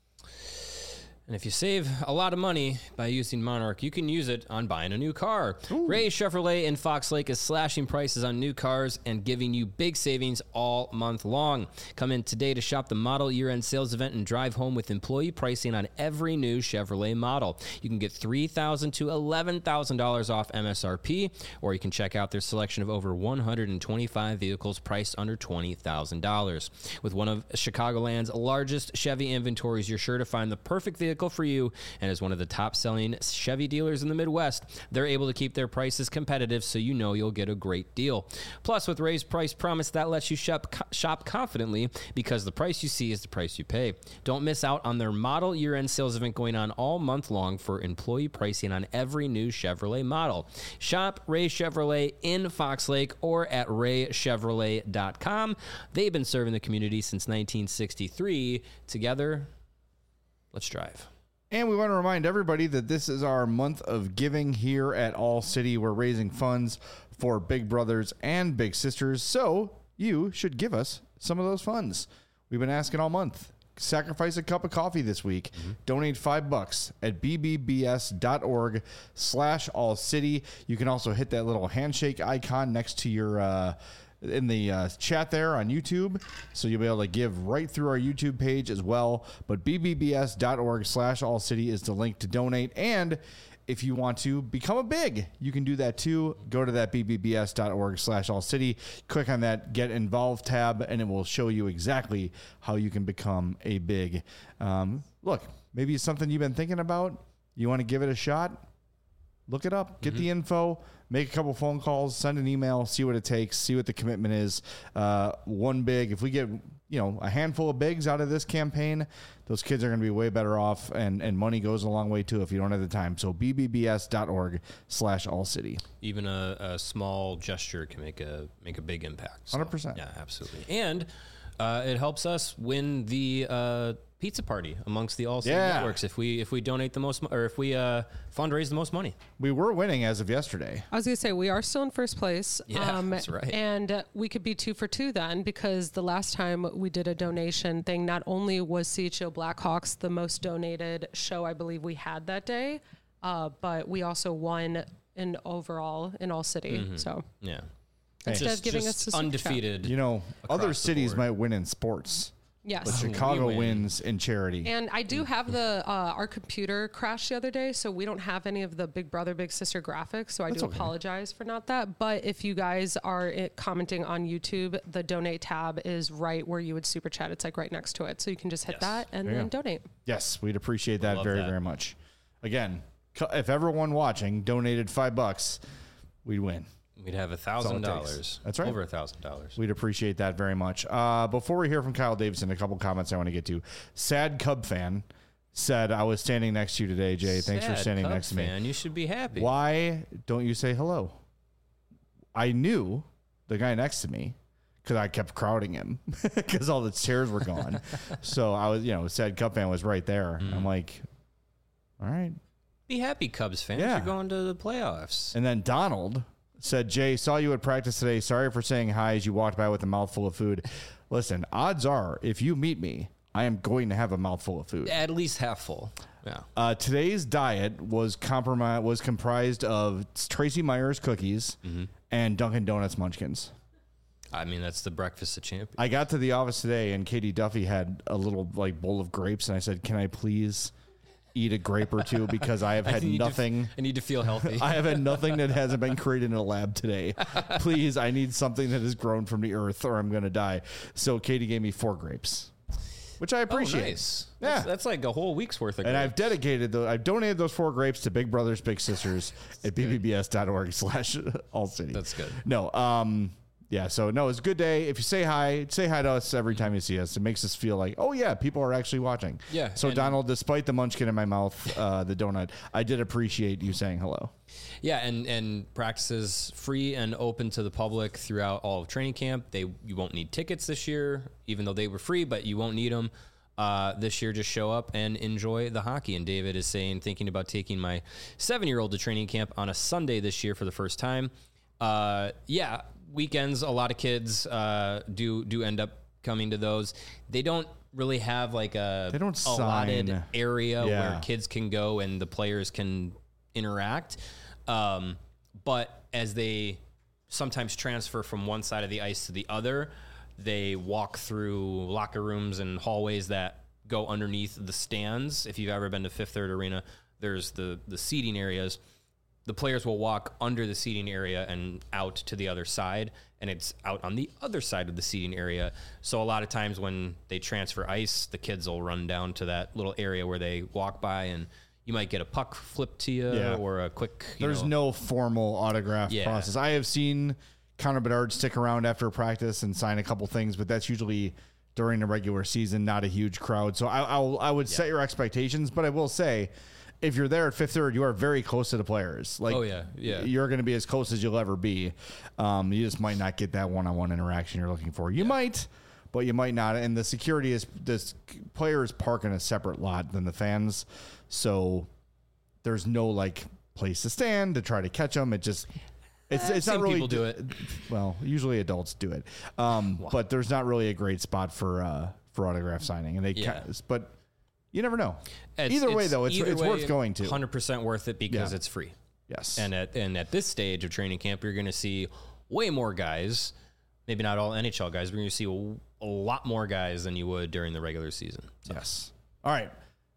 And if you save a lot of money by using Monarch, you can use it on buying a new car. Ooh. Ray Chevrolet in Fox Lake is slashing prices on new cars and giving you big savings all month long. Come in today to shop the model year-end sales event and drive home with employee pricing on every new Chevrolet model. You can get three thousand dollars to eleven thousand dollars off M S R P, or you can check out their selection of over one hundred twenty-five vehicles priced under twenty thousand dollars. With one of Chicagoland's largest Chevy inventories, you're sure to find the perfect vehicle for you, and as one of the top-selling Chevy dealers in the Midwest, they're able to keep their prices competitive, so you know you'll get a great deal. Plus, with Ray's Price Promise, that lets you shop, shop confidently because the price you see is the price you pay. Don't miss out on their model year-end sales event going on all month long for employee pricing on every new Chevrolet model. Shop Ray Chevrolet in Fox Lake or at ray chevrolet dot com. They've been serving the community since nineteen sixty-three. Together, let's drive. And we want to remind everybody that this is our month of giving here at All City. We're raising funds for Big Brothers and Big Sisters, so you should give us some of those funds. We've been asking all month. Sacrifice a cup of coffee this week. Mm-hmm. Donate five bucks at b b b s dot org slash all city. You can also hit that little handshake icon next to your uh, in the uh, chat there on YouTube, so you'll be able to give right through our YouTube page as well. But b b b s dot org slash all city is the link to donate. And if you want to become a big, you can do that too. Go to that b b b s dot org slash all city, click on that Get Involved tab, and it will show you exactly how you can become a big. Um, look, maybe it's something you've been thinking about. You want to give it a shot? Look it up, get mm-hmm. the info, make a couple phone calls, send an email, see what it takes, see what the commitment is. Uh, one big, if we get, you know, a handful of bigs out of this campaign, those kids are going to be way better off, and, and money goes a long way too if you don't have the time. So b b b s dot org slash all city. Even a, a small gesture can make a make a big impact. So, one hundred percent. Yeah, absolutely. And uh, it helps us win the uh, pizza party amongst the All City yeah. networks if we if we donate the most, or if we uh, fundraise the most money. We were winning as of yesterday. I was going to say, we are still in first place. Yeah, um, that's right. And uh, we could be two for two then, because the last time we did a donation thing, not only was C H G O Blackhawks the most donated show I believe we had that day, uh, but we also won in overall in All City. Mm-hmm. So yeah. Instead just, of giving just us undefeated. You know, other cities might win in sports. Yes. But Chicago we win. wins in charity. And I do have the, uh, our computer crashed the other day, so we don't have any of the Big Brother, Big Sister graphics, so I That's do okay. apologize for not that. But if you guys are it, commenting on YouTube, the donate tab is right where you would super chat. It's like right next to it. So you can just hit Yes. that and There you then go. donate. Yes, we'd appreciate that Love very, that. very much. Again, cu- if everyone watching donated five bucks, we'd win. We'd have a thousand dollars. That's right. Over a thousand dollars. We'd appreciate that very much. Uh, before we hear from Kyle Davidson, a couple comments I want to get to. Sad Cub fan said, I was standing next to you today, Jay. Thanks for Sad standing Cubs next to me. fan. You should be happy. Why don't you say hello? I knew the guy next to me because I kept crowding him because all the chairs were gone. So I was, you know, sad Cub fan was right there. Mm. I'm like, all right. Be happy, Cubs fans. Yeah. You're going to the playoffs. And then Donald said, Jay, saw you at practice today. Sorry for saying hi as you walked by with a mouthful of food. Listen, odds are, if you meet me, I am going to have a mouthful of food. At least half full. Yeah. Uh, today's diet was compromised, was comprised of Tracy Myers cookies Mm-hmm. and Dunkin' Donuts munchkins. I mean, that's the breakfast of champions. I got to the office today and Katie Duffy had a little like bowl of grapes and I said, can I please eat a grape or two because I have had I need nothing. To, I need to feel healthy. I have had nothing that hasn't been created in a lab today. Please, I need something that has grown from the earth or I'm going to die. So Katie gave me four grapes, which I appreciate. Oh, nice. Yeah. That's, that's like a whole week's worth of And grapes. I've dedicated those, I've donated those four grapes to Big Brothers Big Sisters at b b b s dot org slash all city. That's good. No, um, yeah, so no, it's a good day. If you say hi, say hi to us every time you see us. It makes us feel like, oh yeah, people are actually watching. Yeah, So and- Donald, despite the munchkin in my mouth, uh, the donut, I did appreciate you saying hello. Yeah, and, and practice is free and open to the public throughout all of training camp. They You won't need tickets this year, even though they were free, but you won't need them. Uh, this year, just show up and enjoy the hockey. And David is saying, thinking about taking my seven-year-old to training camp on a Sunday this year for the first time. Uh, yeah, weekends, a lot of kids uh, do do end up coming to those. They don't really have like a They don't allotted sign. area Yeah. where kids can go and the players can interact. Um, but as they sometimes transfer from one side of the ice to the other, they walk through locker rooms and hallways that go underneath the stands. If you've ever been to Fifth Third Arena, there's the, the seating areas. The players will walk under the seating area and out to the other side, and it's out on the other side of the seating area. So a lot of times when they transfer ice, the kids will run down to that little area where they walk by, and you might get a puck flipped to you Yeah. or a quick, you There's know, no formal autograph Yeah. process. I have seen Connor Bedard stick around after practice and sign a couple things, but that's usually during the regular season, not a huge crowd. So I, I'll, I would set your expectations, but I will say, if you're there at Fifth Third, you are very close to the players. Like, Oh, yeah, yeah. You're going to be as close as you'll ever be. Um, you just might not get that one-on-one interaction you're looking for. You might, but you might not. And the security is, this players park in a separate lot than the fans. So there's no like place to stand to try to catch them. It just, it's, Eh, it's not seen really, people do it. Well, usually adults do it. Um, but there's not really a great spot for, uh, for autograph signing. And they, Yeah. ca- but you never know. It's- Either way, it's- though, it's, either it's way, worth going to. one hundred percent worth it because Yeah. it's free. Yes. And at and at this stage of training camp, you're going to see way more guys. Maybe not all N H L guys, but you're going to see a, a lot more guys than you would during the regular season. So. Yes. All right.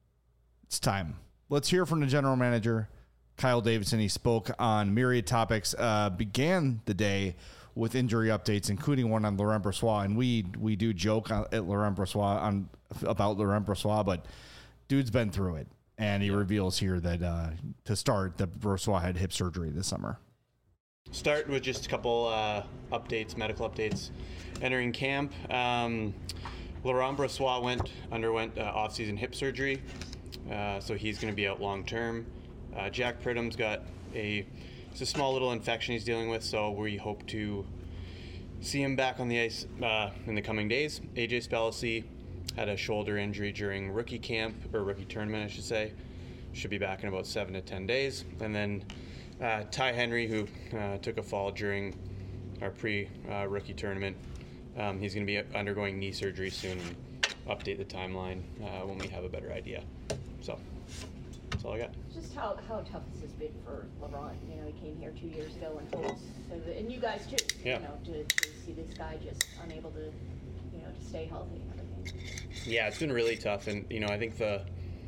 It's time. Let's hear from the general manager, Kyle Davidson. He spoke on myriad topics, uh, began the day with injury updates, including one on Laurent Brossoit. And we we do joke on, at Laurent Brossoit on about Laurent Brossoit, but dude's been through it. And he yeah. reveals here that uh, to start, that Brossoit had hip surgery this summer. Start with just a couple uh, updates, medical updates. Entering camp, um, Laurent Brossoit went underwent uh, off-season hip surgery, uh, so he's going to be out long term. Uh, Jack Pridham's got a it's a small little infection he's dealing with, so we hope to see him back on the ice uh, in the coming days. A J Spellacy had a shoulder injury during rookie camp, or rookie tournament, I should say. Should be back in about seven to ten days. And then uh, Ty Henry, who uh, took a fall during our pre-rookie uh, tournament, um, he's going to be undergoing knee surgery soon, and update the timeline uh, when we have a better idea. So that's all I got. Just how, how tough has this been for Laurent? You know, he came here two years ago in hopes, of, and you guys too. Yeah. You know, to, to see this guy just unable to, you know, to stay healthy and everything. Yeah, it's been really tough, and you know, I think the,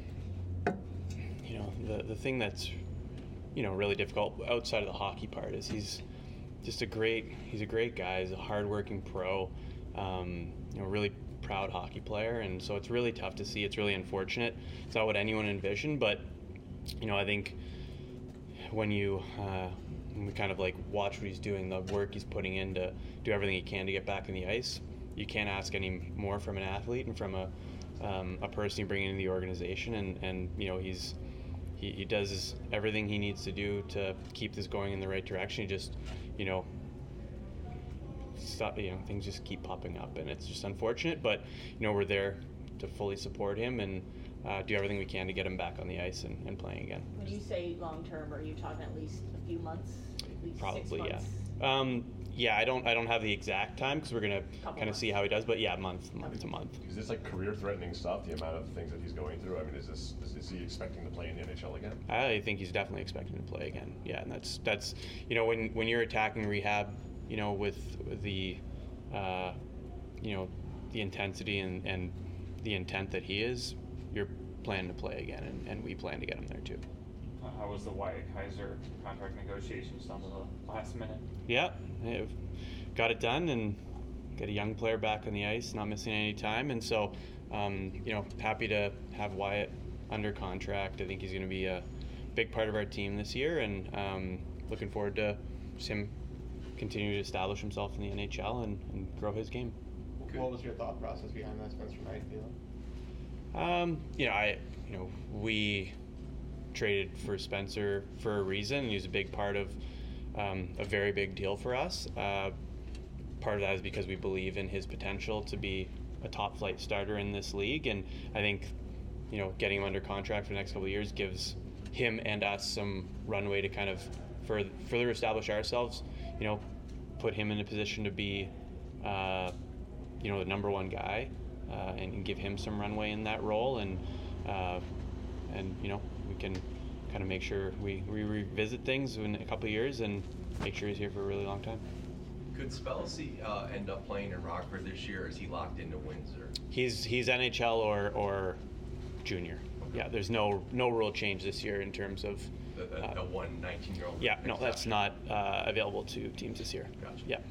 you know, the the thing that's, you know, really difficult outside of the hockey part is he's just a great, he's a great guy. He's a hardworking pro, um, you know, really proud hockey player, and so it's really tough to see. It's really unfortunate. It's not what anyone envisioned, but you know, I think when you uh, when we kind of like watch what he's doing, the work he's putting in to do everything he can to get back in the ice, you can't ask any more from an athlete and from a um, a person you bring into the organization, and, and you know he's he, he does everything he needs to do to keep this going in the right direction. He just, you know, stop, you know, things just keep popping up, and it's just unfortunate. But you know, we're there to fully support him and uh, do everything we can to get him back on the ice and, and playing again. When you say long term, are you talking at least a few months? At least Probably, six months? yeah. Um, yeah, I don't I don't have the exact time because we're gonna kind of see how he does, but yeah, month month to month. Is this like career-threatening stuff? The amount of things that he's going through. I mean, is this is, is he expecting to play in the N H L again? I think he's definitely expecting to play again. Yeah, and that's that's you know when when you're attacking rehab, you know with the, uh, you know, the intensity and, and the intent that he is, you're planning to play again, and, and we plan to get him there too. Uh, how was the Wyatt Kaiser contract negotiations done to the last minute? Yeah, I've got it done and got a young player back on the ice, not missing any time, and so um, you know, happy to have Wyatt under contract. I think he's going to be a big part of our team this year, and um, looking forward to just him continue to establish himself in the N H L and, and grow his game. What was your thought process behind that, Spencer Knight deal? Um, you know, I, you know, we traded for Spencer for a reason. He was a big part of um, a very big deal for us. Uh, part of that is because we believe in his potential to be a top flight starter in this league, and I think, you know, getting him under contract for the next couple of years gives him and us some runway to kind of further, further establish ourselves. You know, put him in a position to be, uh, you know, the number one guy, uh, and, and give him some runway in that role, and uh, and you know, we can kind of make sure we, we revisit things in a couple of years and make sure he's here for a really long time. Could Spellacy uh, end up playing in Rockford this year, or is he locked into Windsor? He's he's N H L or or junior. Okay. Yeah, there's no no rule change this year in terms of the, the, uh, the one nineteen-year-old. Yeah, no, that's not uh, available to teams this year. Gotcha. Yeah.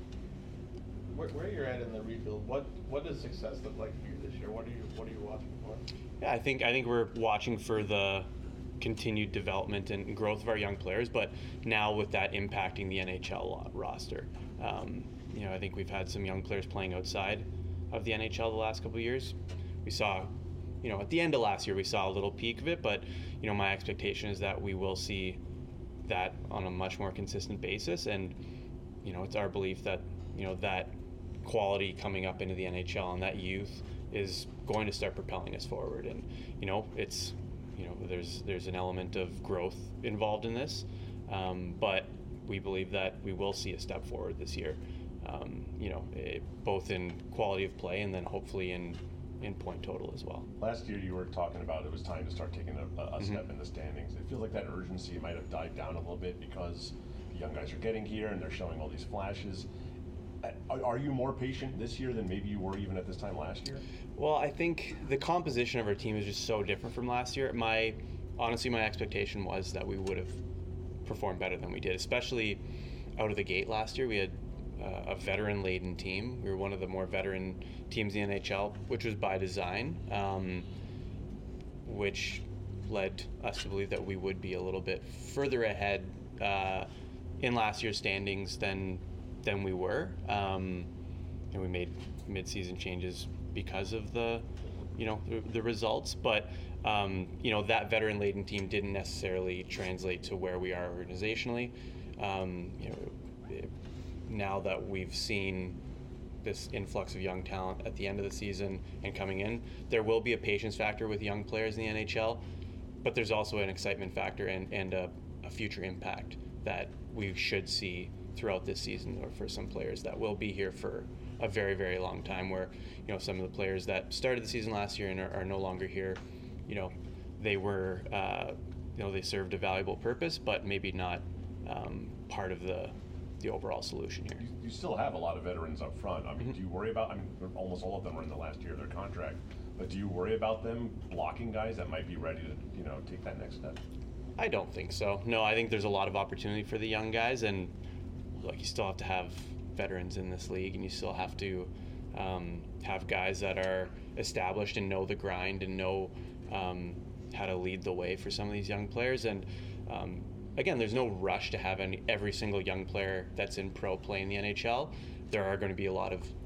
Where, where you're at in the rebuild, what what does success look like for you this year? What are you what are you watching for? Yeah, I think I think we're watching for the continued development and growth of our young players, but now with that impacting the N H L roster. Um, you know, I think we've had some young players playing outside of the N H L the last couple of years. We saw, you know, at the end of last year, we saw a little peak of it, but, you know, my expectation is that we will see that on a much more consistent basis. And, you know, it's our belief that, you know, that quality coming up into the N H L and that youth is going to start propelling us forward. And, you know, it's, you know, there's there's an element of growth involved in this, um, but we believe that we will see a step forward this year, um, you know, it, both in quality of play and then hopefully in, in point total as well. Last year you were talking about it was time to start taking a, a mm-hmm. step in the standings. It feels like that urgency might have died down a little bit because the young guys are getting here and they're showing all these flashes. Are, are you more patient this year than maybe you were even at this time last year? Well, I think the composition of our team is just so different from last year. My honestly, my expectation was that we would have performed better than we did, especially out of the gate last year. We had uh, a veteran-laden team. We were one of the more veteran teams in the N H L, which was by design, um, which led us to believe that we would be a little bit further ahead uh, in last year's standings than than we were. Um, and we made mid-season changes because of the, you know, the, the results, but um, you know, that veteran-laden team didn't necessarily translate to where we are organizationally. Um, you know, it, now that we've seen this influx of young talent at the end of the season and coming in, there will be a patience factor with young players in the N H L, but there's also an excitement factor and, and a, a future impact that we should see throughout this season, or for some players that will be here for a very, very long time, where, you know, some of the players that started the season last year and are, are no longer here, you know, they were, uh, you know, they served a valuable purpose, but maybe not um, part of the the overall solution here. You, you still have a lot of veterans up front. I mean, mm-hmm. do you worry about, I mean, almost all of them are in the last year of their contract, but do you worry about them blocking guys that might be ready to, you know, take that next step? I don't think so. No, I think there's a lot of opportunity for the young guys, and like, you still have to have veterans in this league, and you still have to um, have guys that are established and know the grind and know um, how to lead the way for some of these young players. And um, again, there's no rush to have any, every single young player that's in pro play in the N H L. There are going to be a lot of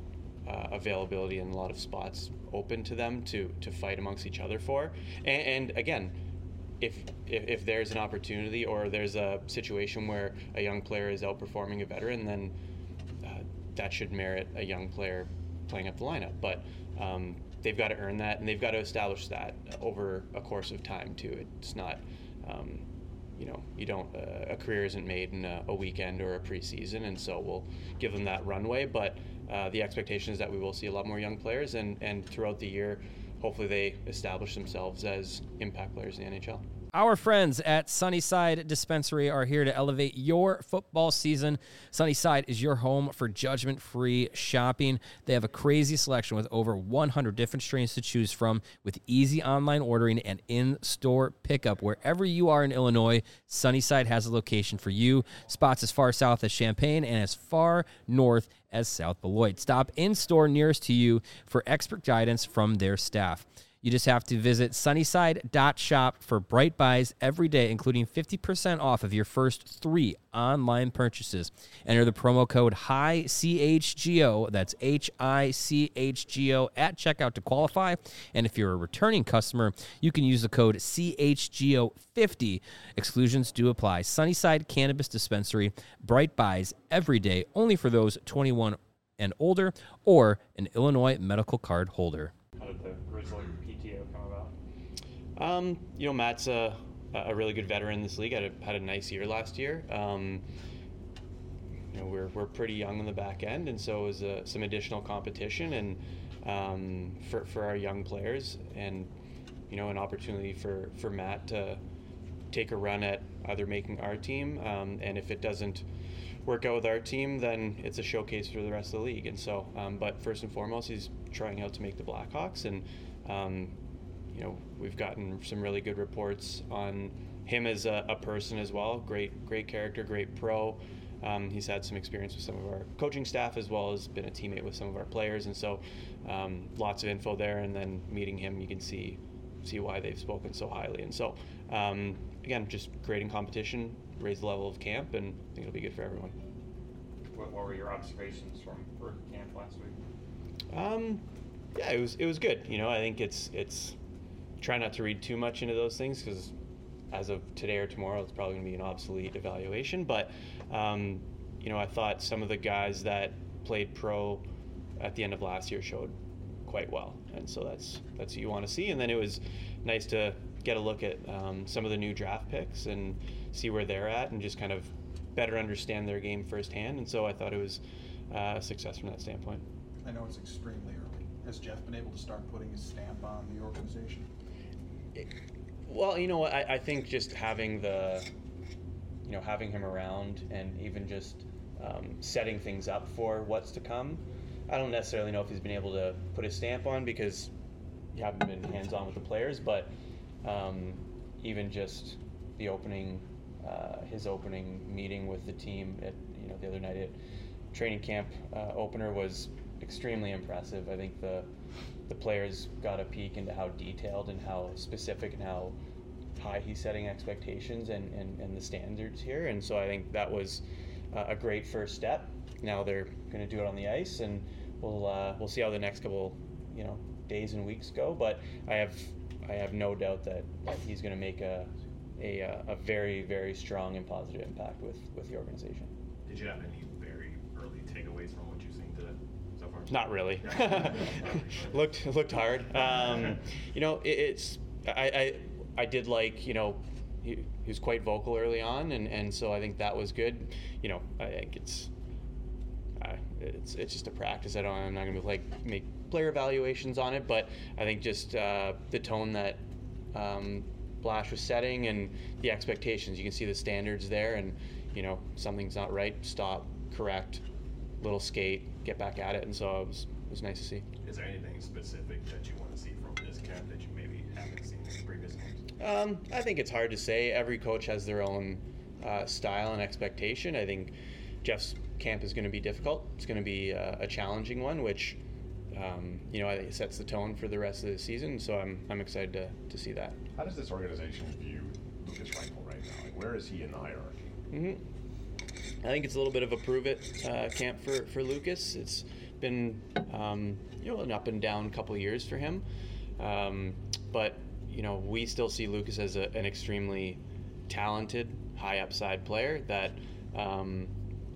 uh, availability and a lot of spots open to them to to fight amongst each other for. And, and again, if, if if there's an opportunity or there's a situation where a young player is outperforming a veteran, then uh, that should merit a young player playing up the lineup. But um, they've got to earn that, and they've got to establish that over a course of time too. It's not, um, you know, you don't uh, a career isn't made in a, a weekend or a preseason, and so we'll give them that runway. But uh, the expectation is that we will see a lot more young players, and and throughout the year, hopefully they establish themselves as impact players in the N H L. Our friends at Sunnyside Dispensary are here to elevate your football season. Sunnyside is your home for judgment-free shopping. They have a crazy selection with over one hundred different strains to choose from, with easy online ordering and in-store pickup. Wherever you are in Illinois, Sunnyside has a location for you. Spots as far south as Champaign and as far north as South Beloit. Stop in-store nearest to you for expert guidance from their staff. You just have to visit sunnyside dot shop for bright buys every day, including fifty percent off of your first three online purchases. Enter the promo code H I C H G O, that's H I C H G O, at checkout to qualify. And if you're a returning customer, you can use the code C H G O fifty. Exclusions do apply. Sunnyside Cannabis Dispensary, bright buys every day, only for those twenty-one and older or an Illinois medical card holder. How did the Grizzly P T O come about? Um, you know, Matt's a, a really good veteran in this league. Had a, had a nice year last year. Um, you know, we're we're pretty young on the back end, and so it was uh, some additional competition and um, for for our young players, and you know, an opportunity for for Matt to take a run at either making our team, um, and if it doesn't work out with our team, then it's a showcase for the rest of the league. And so, um, but first and foremost, he's trying out to make the Blackhawks, and um, you know, we've gotten some really good reports on him as a, a person as well. Great, great character, great pro. Um, he's had some experience with some of our coaching staff, as well as been a teammate with some of our players, and so um, lots of info there. And then meeting him, you can see see why they've spoken so highly. And so, um, again, just creating competition, raise the level of camp, and I think it'll be good for everyone. What, what were your observations from for camp last week? Um, yeah, it was it was good. You know, I think it's it's try not to read too much into those things, because as of today or tomorrow, it's probably going to be an obsolete evaluation. But um, you know, I thought some of the guys that played pro at the end of last year showed quite well, and so that's that's what you want to see. And then it was nice to get a look at um, some of the new draft picks and see where they're at, and just kind of better understand their game firsthand. And so I thought it was uh, a success from that standpoint. I know it's extremely early. Has Jeff been able to start putting his stamp on the organization? It, well, you know what, I, I think just having the, you know, having him around, and even just um, setting things up for what's to come. I don't necessarily know if he's been able to put his stamp on, because you haven't been hands-on with the players, but um, even just the opening, uh, his opening meeting with the team at, you know, the other night at training camp uh, opener was extremely impressive. I think the the players got a peek into how detailed and how specific and how high he's setting expectations and, and, and the standards here. And so I think that was uh, a great first step. Now they're going to do it on the ice, and we'll uh, we'll see how the next couple, you know, days and weeks go. But I have I have no doubt that, that he's going to make a, a a very very strong and positive impact with, with the organization. Did you have any very early takeaways from what you've seen today so far? Not really. looked looked hard. Um, you know, it, it's I, I I did like, you know, he, he was quite vocal early on, and, and so I think that was good. You know, I think it's. Uh, it's it's just a practice. I don't. I'm not going to like make player evaluations on it, but I think just uh, the tone that um, Blash was setting and the expectations. You can see the standards there, and you know, something's not right, stop, correct, little skate, get back at it, and so it was it was nice to see. Is there anything specific that you want to see from this camp that you maybe haven't seen in previous games? Um, I think it's hard to say. Every coach has their own uh, style and expectation. I think Jeff's camp is going to be difficult. It's going to be a, a challenging one, which um, you know, I think it sets the tone for the rest of the season. So I'm I'm excited to, to see that. How does this organization view Lukas Reichel right now? Like, where is he in the hierarchy? Mm-hmm. I think it's a little bit of a prove it uh, camp for for Lukas. It's been um, you know an up and down couple of years for him, um, but you know we still see Lucas as a, an extremely talented, high upside player that um,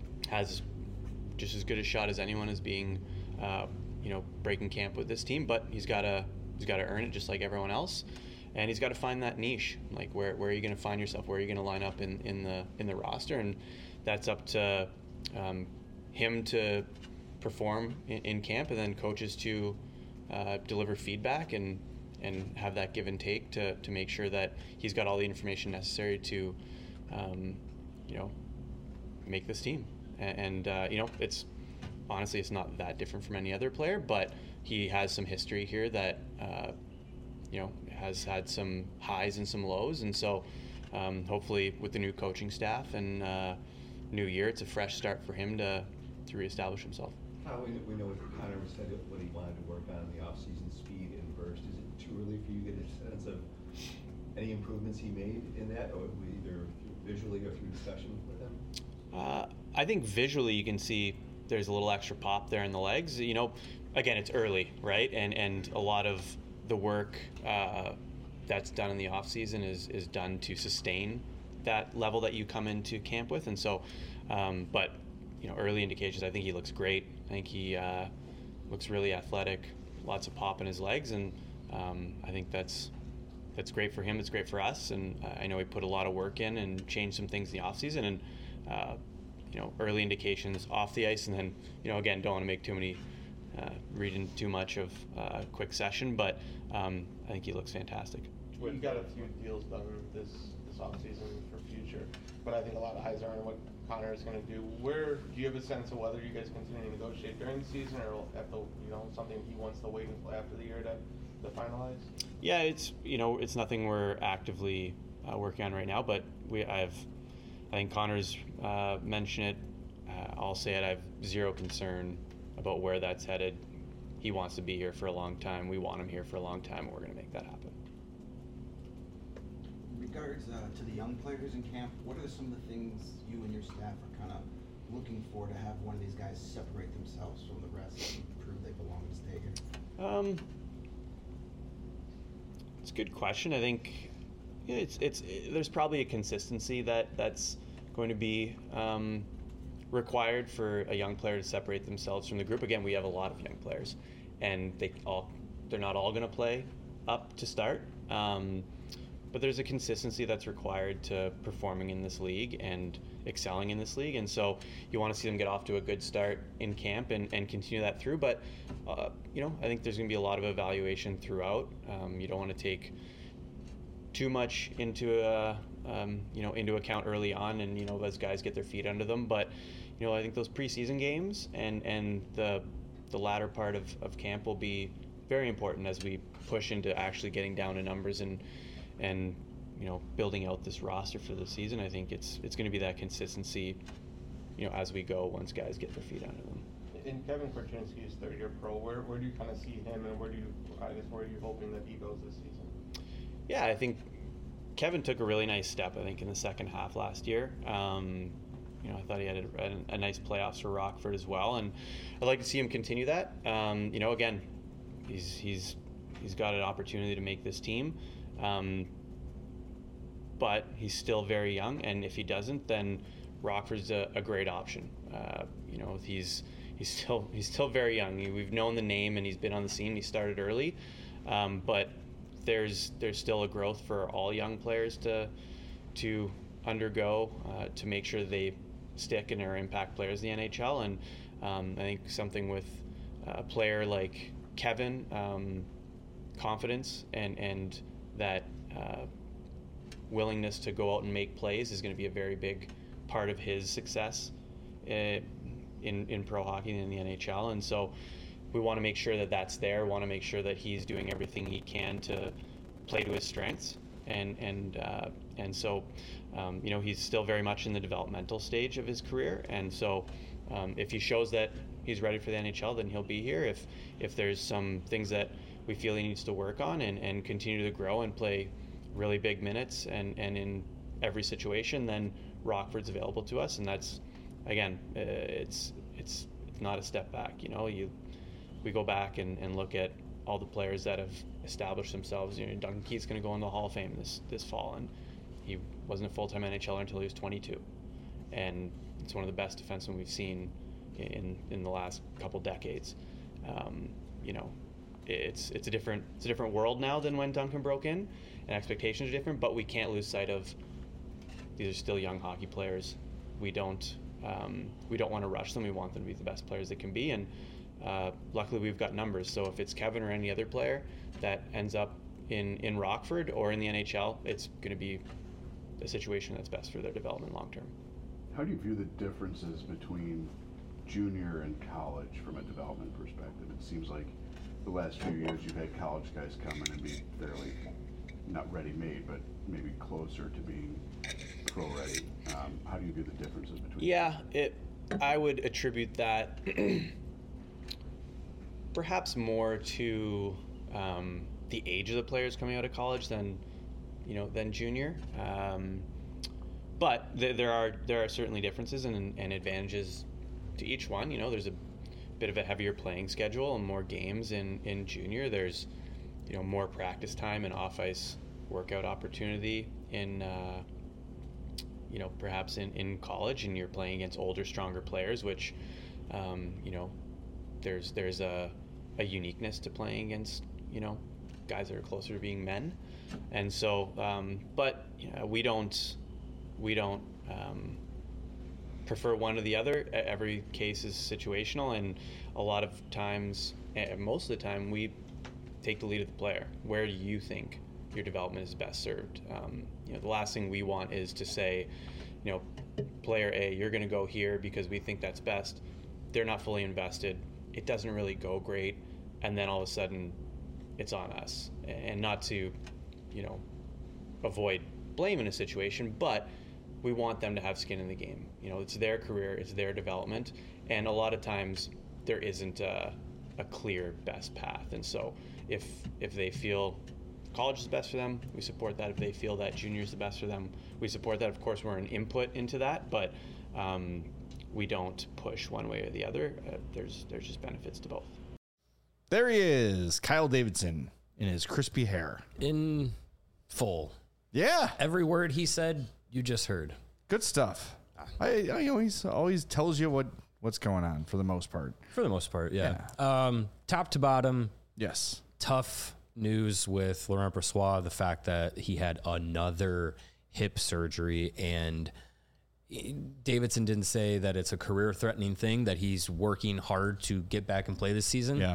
has just as good a shot as anyone as being uh, you know breaking camp with this team. But he's got to he's got to earn it just like everyone else. And he's got to find that niche, like where, where are you going to find yourself, where are you going to line up in, in the in the roster, and that's up to um, him to perform in, in camp, and then coaches to uh, deliver feedback and and have that give and take to, to make sure that he's got all the information necessary to, um, you know, make this team. And, and uh, you know, it's honestly it's not that different from any other player, but he has some history here that. Uh, you know, has had some highs and some lows, and so um, hopefully with the new coaching staff and uh, new year, it's a fresh start for him to to reestablish himself. Uh, we, we know what Connor said what he wanted to work on in the off-season, speed and burst. Is it too early for you to get a sense of any improvements he made in that, or either visually or through discussion with him? Uh, I think visually you can see there's a little extra pop there in the legs. You know, again, it's early, right? And and a lot of the work uh, that's done in the off season is is done to sustain that level that you come into camp with, and so, um, but you know, early indications, I think he looks great. I think he uh, looks really athletic, lots of pop in his legs, and um, I think that's that's great for him. It's great for us, and uh, I know he put a lot of work in and changed some things in the off season, and uh, you know, early indications off the ice, and then you know, again, don't want to make too many. Uh, reading too much of a uh, quick session, but um, I think he looks fantastic. We got a few deals done this this offseason for future, but I think a lot of eyes are on what Connor is going to do. Where do you have a sense of whether you guys continue to negotiate during the season, or at the you know something he wants to wait until after the year to, to finalize? Yeah, it's you know it's nothing we're actively uh, working on right now, but we I've I think Connor's uh, mentioned it. Uh, I'll say it. I have zero concern about where that's headed. He wants to be here for a long time. We want him here for a long time, and we're going to make that happen. In regards uh, to the young players in camp, what are some of the things you and your staff are kind of looking for to have one of these guys separate themselves from the rest and prove they belong to stay here? Um, it's a good question. I think it's it's it, there's probably a consistency that that's going to be um, required for a young player to separate themselves from the group. Again, we have a lot of young players, and they all they're not all going to play up to start. Um, but there's a consistency that's required to performing in this league and excelling in this league, and so you want to see them get off to a good start in camp and, and continue that through. But uh, you know, I think there's going to be a lot of evaluation throughout. Um, you don't want to take too much into a um, you know into account early on, and you know as guys get their feet under them. But you know I think those preseason games and and the the latter part of, of camp will be very important as we push into actually getting down to numbers and and you know building out this roster for the season. I think it's it's going to be that consistency, you know, as we go once guys get their feet under them. In Kevin Korchinski's third year pro, where where do you kind of see him, and where do you I guess where are you hoping that he goes this season? Yeah, I think Kevin took a really nice step, I think, in the second half last year. Um, you know, I thought he had a, a, a nice playoffs for Rockford as well, and I'd like to see him continue that. Um, you know, again, he's he's he's got an opportunity to make this team, um, but he's still very young, and if he doesn't, then Rockford's a, a great option. Uh, you know, he's he's still he's still very young. We've known the name, and he's been on the scene. He started early, um, but there's there's still a growth for all young players to to undergo uh, to make sure they stick and are impact players in the N H L. And um, I think something with a player like Kevin, um, confidence and and that uh, willingness to go out and make plays is going to be a very big part of his success uh, in in pro hockey and in the N H L. And so we want to make sure that that's there. We want to make sure that he's doing everything he can to play to his strengths. And and uh, and so, um, you know, he's still very much in the developmental stage of his career. And so, um, if he shows that he's ready for the N H L, then he'll be here. If if there's some things that we feel he needs to work on and, and continue to grow and play really big minutes and, and in every situation, then Rockford's available to us. And that's, again, uh, it's it's not a step back. You know, you we go back and, and look at all the players that have established themselves. You know, Duncan Keith's going to go in the Hall of Fame this this fall, and he wasn't a full-time N H L er until he was twenty-two, and it's one of the best defensemen we've seen in in the last couple decades. Um, you know, it's it's a different it's a different world now than when Duncan broke in, and expectations are different. But we can't lose sight of these are still young hockey players. We don't um, we don't want to rush them. We want them to be the best players they can be, and uh, luckily we've got numbers. So if it's Kevin or any other player that ends up in in Rockford or in the N H L, it's going to be a situation that's best for their development long term. How do you view the differences between junior and college from a development perspective? It seems like the last few years you've had college guys come in and be fairly, not ready-made, but maybe closer to being pro-ready. Um, how do you view the differences between Yeah, it. I would attribute that perhaps more to um, the age of the players coming out of college than, you know, than junior. Um, but th- there are there are certainly differences and, and advantages to each one. You know, there's a bit of a heavier playing schedule and more games in, in junior. There's, you know, more practice time and off-ice workout opportunity in, uh, you know, perhaps in, in college, and you're playing against older, stronger players, which, um, you know, there's there's a, a uniqueness to playing against, you know, guys that are closer to being men. And so, um, but you know, we don't, we don't um, prefer one or the other. Every case is situational, and a lot of times, most of the time, we take the lead of the player. Where do you think your development is best served? Um, you know, the last thing we want is to say, you know, player A, you're going to go here because we think that's best. They're not fully invested. It doesn't really go great, and then all of a sudden, it's on us. And not to, you know, avoid blame in a situation, but we want them to have skin in the game. You know, it's their career, it's their development, and a lot of times there isn't a, a clear best path. And so if if they feel college is best for them, we support that. If they feel that junior is the best for them, we support that. Of course, we're an input into that, but um, we don't push one way or the other. Uh, there's there's just benefits to both. There he is, Kyle Davidson, in his crispy hair. In full. Yeah. Every word he said, you just heard. Good stuff. I, I always always tells you what, what's going on for the most part. For the most part, yeah. yeah. Um, top to bottom. Yes. Tough news with Laurent Brossoit, the fact that he had another hip surgery, and Davidson didn't say that it's a career-threatening thing, that he's working hard to get back and play this season. Yeah.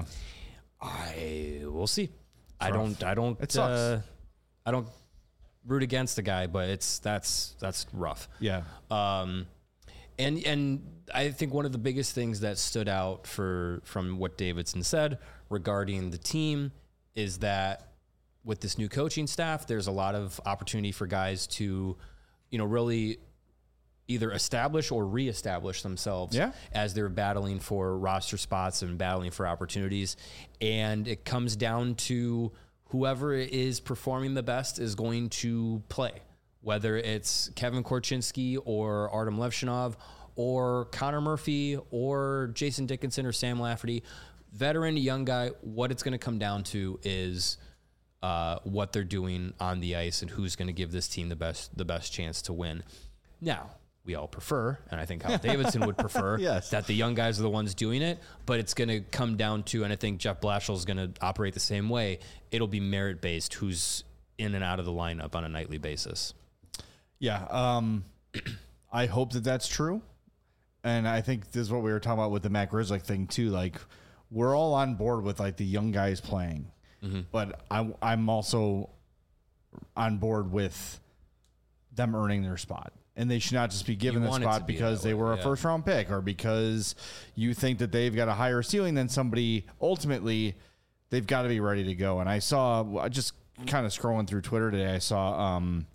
I will see. It's I rough. don't. I don't. It sucks. Uh, I don't root against the guy, but it's that's that's rough. Yeah. Um, and and I think one of the biggest things that stood out for from what Davidson said regarding the team is that with this new coaching staff, there's a lot of opportunity for guys to, you know, really either establish or reestablish themselves yeah. as they're battling for roster spots and battling for opportunities. And it comes down to whoever is performing the best is going to play, whether it's Kevin Korchinski or Artem Levshinov or Connor Murphy or Jason Dickinson or Sam Lafferty. Veteran, young guy, what it's going to come down to is uh, what they're doing on the ice and who's going to give this team the best the best chance to win. Now, we all prefer, and I think Kyle Davidson would prefer, yes. that the young guys are the ones doing it, but it's going to come down to, and I think Jeff Blashill is going to operate the same way, it'll be merit-based, who's in and out of the lineup on a nightly basis. Yeah, um, I hope that that's true, and I think this is what we were talking about with the Matt Grzelcyk thing, too. Like, we're all on board with, like, the young guys playing, mm-hmm. but I, I'm also on board with them earning their spot. And they should not just be given the spot be because they way, were a yeah. first round pick or because you think that they've got a higher ceiling than somebody. Ultimately, they've got to be ready to go. And I saw, just kind of scrolling through Twitter today, I saw um,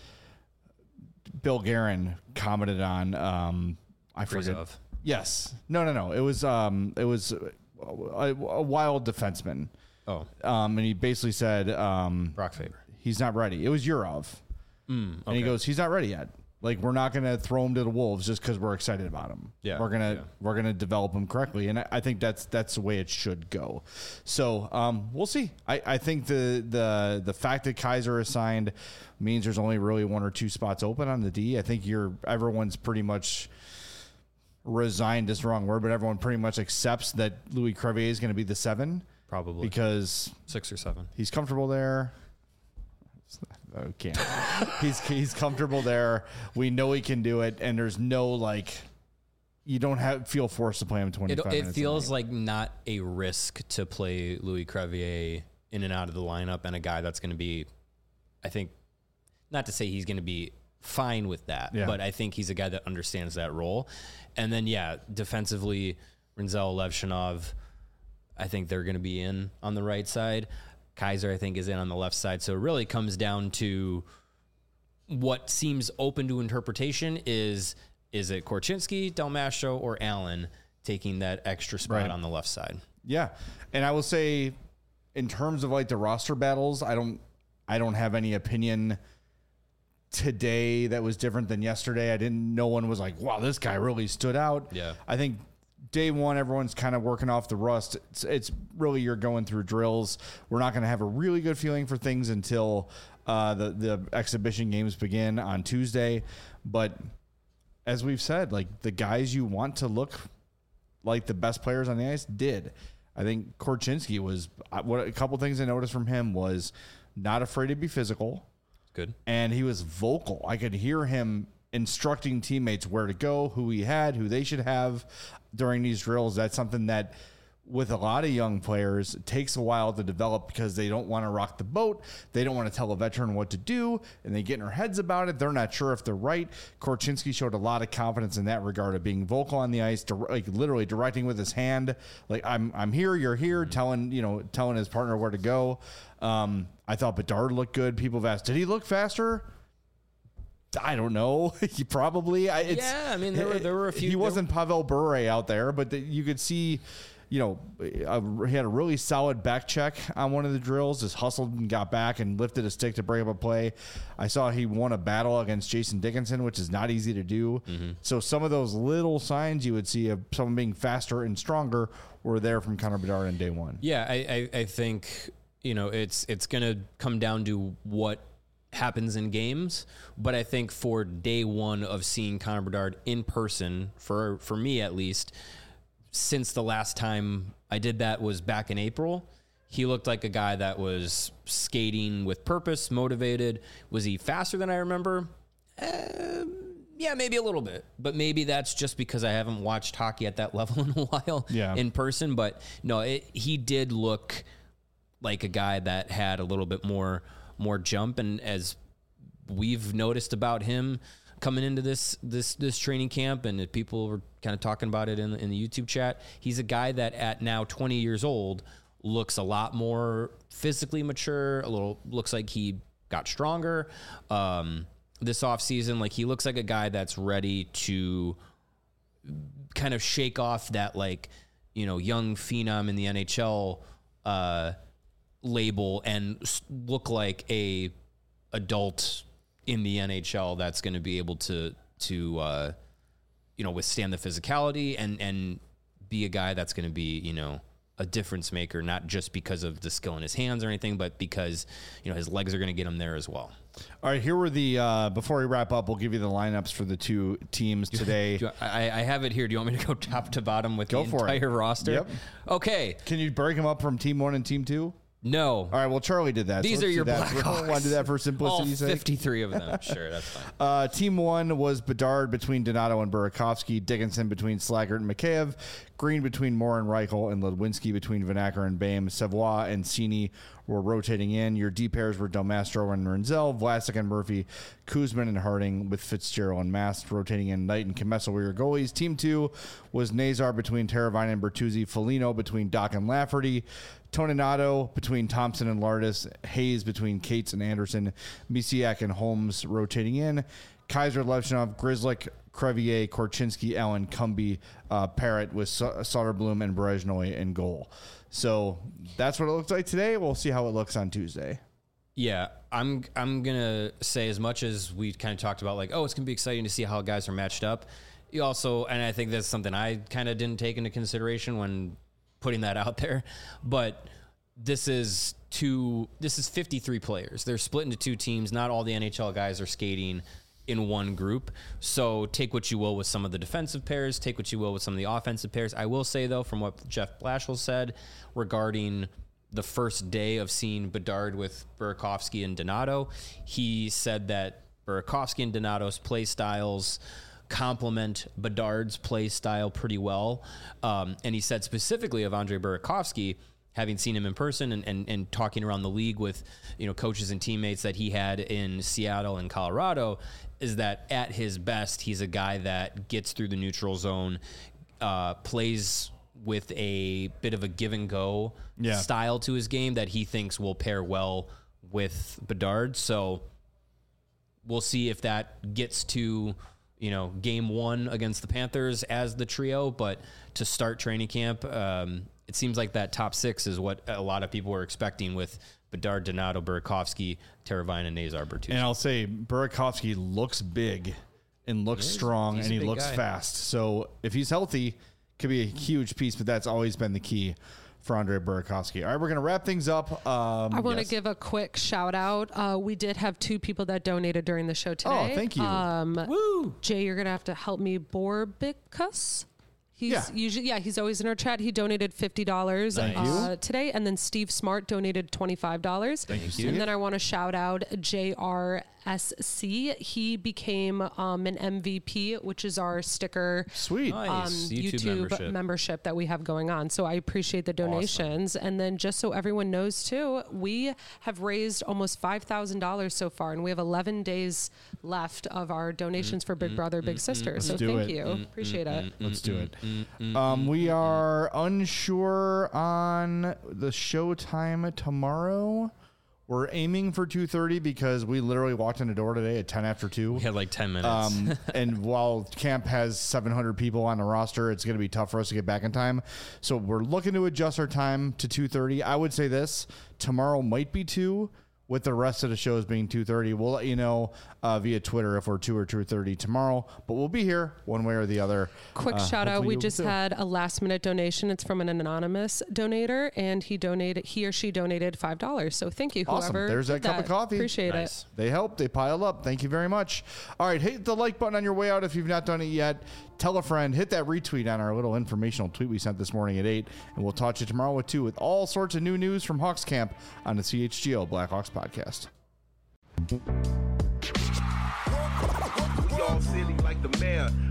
Bill Guerin commented on, um, I forget. Of. Yes. No, no, no. It was, um, it was a, a wild defenseman. Oh. Um, and he basically said, um, Brock Faber. He's not ready. It was Yurov. Mm, okay. And he goes, he's not ready yet. Like, we're not going to throw him to the wolves just because we're excited about him. Yeah, we're gonna yeah. we're gonna develop him correctly, and I, I think that's that's the way it should go. So um, we'll see. I, I think the the the fact that Kaiser is signed means there's only really one or two spots open on the D. I think you're everyone's pretty much resigned is the wrong word, but everyone pretty much accepts that Louis Crevier is going to be the seven, probably because six or seven. He's comfortable there. Okay, he's he's comfortable there. We know he can do it, and there's no like, you don't have feel forced to play him twenty-five It, it minutes. feels like not a risk to play Louis Crevier in and out of the lineup, and a guy that's going to be, I think, not to say he's going to be fine with that, Yeah. but I think he's a guy that understands that role. And then yeah, defensively, Renzel, Levshinov, I think they're going to be in on the right side. Kaiser, I think, is in on the left side. So it really comes down to what seems open to interpretation is, is it Korchinski, Del Mastro, or Allen taking that extra spot Right. on the left side? Yeah. And I will say, in terms of like the roster battles, I don't I don't have any opinion today that was different than yesterday. I didn't no one was like, wow, this guy really stood out. Yeah. I think day one, everyone's kind of working off the rust. It's, it's really, you're going through drills. We're not going to have a really good feeling for things until uh, the, the exhibition games begin on Tuesday. But as we've said, like the guys you want to look like the best players on the ice did. I think Korchinski was, what a couple things I noticed from him was not afraid to be physical. Good. And he was vocal. I could hear him instructing teammates where to go, who he had, who they should have during these drills. That's something that with a lot of young players, it takes a while to develop because they don't want to rock the boat. They don't want to tell a veteran what to do, and they get in their heads about it. They're not sure if they're right. Korchinski showed a lot of confidence in that regard of being vocal on the ice, like literally directing with his hand. Like, I'm I'm here, you're here, telling, you know, telling his partner where to go. Um, I thought Bedard looked good. People have asked, did he look faster? I don't know. He probably. I, it's, Yeah, I mean, there were- there were a few- He there wasn't Pavel Bure out there, but the, you could see, you know, a, he had a really solid back check on one of the drills. Just hustled and got back and lifted a stick to break up a play. I saw he won a battle against Jason Dickinson, which is not easy to do. Mm-hmm. So some of those little signs you would see of someone being faster and stronger were there from Connor Bedard in day one. Yeah, I, I, I think, you know, it's it's going to come down to what happens in games, but I think for day one of seeing Connor Bedard in person, for for me at least, since the last time I did that was back in April, he looked like a guy that was skating with purpose, motivated. Was he faster than I remember? Uh, yeah, maybe a little bit, but maybe that's just because I haven't watched hockey at that level in a while Yeah. in person. But no, it, he did look like a guy that had a little bit more more jump, and as we've noticed about him coming into this this this training camp, and people were kind of talking about it in the, in the YouTube chat, he's a guy that at now twenty years old looks a lot more physically mature, a little looks like he got stronger um this offseason. Like, he looks like a guy that's ready to kind of shake off that, like, you know, young phenom in the N H L uh label and look like a adult in the N H L that's going to be able to to uh, you know, withstand the physicality and and be a guy that's going to be, you know, a difference maker, not just because of the skill in his hands or anything, but because, you know, his legs are going to get him there as well. All right, here were the, uh, before we wrap up, we'll give you the lineups for the two teams today. Do you- I, I have it here. Do you want me to go top to bottom with Go the for it. entire roster? Yep. Okay. Can you break them up from team one and team two? No. All right, well, Charlie did that. These so are let's your do that. Blackhawks. Want to do that for All simplicity's sake? fifty-three of them. Sure, that's fine. Uh, team one was Bedard between Donato and Burakovsky, Dickinson between Slaggert and Mikheyev, Green between Moore and Reichel, and Ludwinski between Vanacker and Bame. Savoie and Cini were rotating in. Your D pairs were Del Mastro and Renzel, Vlasic and Murphy, Kuzman and Harding with Fitzgerald and Mast rotating in. Knight and Kemessel were your goalies. Team two was Nazar between Teravainen and Bertuzzi, Foligno between Doc and Lafferty, Toninato between Thompson and Lardis, Hayes between Cates and Anderson, Misiak and Holmes rotating in, Kaiser, Levshinov, Grzelcyk, Crevier, Korchinski, Allen, Cumby, uh, Parrott with Sa- Soderblom and Brezhnoy in goal. So that's what it looks like today. We'll see how it looks on Tuesday. Yeah, I'm I'm gonna say, as much as we kind of talked about, like, oh, it's gonna be exciting to see how guys are matched up. You also, and I think that's something I kind of didn't take into consideration when putting that out there, but this is two. This is fifty-three players. They're split into two teams. Not all the N H L guys are skating in one group. So take what you will with some of the defensive pairs. Take what you will with some of the offensive pairs. I will say, though, from what Jeff Blashill said regarding the first day of seeing Bedard with Burakovsky and Donato, he said that Burakovsky and Donato's play styles complement Bedard's play style pretty well. Um, and he said specifically of Andre Burakovsky, having seen him in person and, and, and talking around the league with, you know, coaches and teammates that he had in Seattle and Colorado, is that at his best, he's a guy that gets through the neutral zone, uh, plays with a bit of a give and go Yeah. style to his game that he thinks will pair well with Bedard. So we'll see if that gets to, you know, game one against the Panthers as the trio. But to start training camp, um, it seems like that top six is what a lot of people were expecting with Bedard, Donato, Burakovsky, Teravainen, and Nazar Bertuzzi. And I'll say Burakovsky looks big and looks He is. strong, He's and a he big looks guy. fast. So if he's healthy, could be a huge piece, but that's always been the key for Andre Burakovsky. All right, we're going to wrap things up. Um, I want to yes. give a quick shout out. Uh, we did have two people that donated during the show today. Oh, thank you. Um, Woo! Jay, you're going to have to help me. Borbicus? He's Yeah. usually, yeah, he's always in our chat. He donated fifty dollars Thank uh, you. today. And then Steve Smart donated twenty-five dollars. Thank you. And then I want to shout out J R S C. He became um, an M V P, which is our sticker Sweet. um, Nice. YouTube YouTube, membership. membership. that we have going on. So I appreciate the donations. And then just so everyone knows too, we have raised almost five thousand dollars so far, and we have eleven days left of our donations for Big Brother, Big Sister. Let's So do thank it. you. Appreciate it. Let's do it. Um, we are unsure on the show time tomorrow. We're aiming for two thirty because we literally walked in the door today at ten after two. We had like ten minutes. Um, and while camp has seven hundred people on the roster, it's going to be tough for us to get back in time. So we're looking to adjust our time to two thirty. I would say this, tomorrow might be two, with the rest of the shows being two thirty. We'll let you know uh, via Twitter if we're two or two thirty tomorrow, but we'll be here one way or the other. Quick Uh, shout out. hopefully We you'll just too. had a last minute donation. It's from an anonymous donator, and he donated, he or she donated five dollars. So thank you, Awesome. whoever. There's that did cup of coffee. Appreciate Nice. it. They help. They pile up. Thank you very much. All right. Hit the like button on your way out if you've not done it yet. Tell a friend. Hit that retweet on our little informational tweet we sent this morning at eight. And we'll talk to you tomorrow at two with all sorts of new news from Hawks Camp on the C H G O Blackhawks podcast. We all silly like the mayor.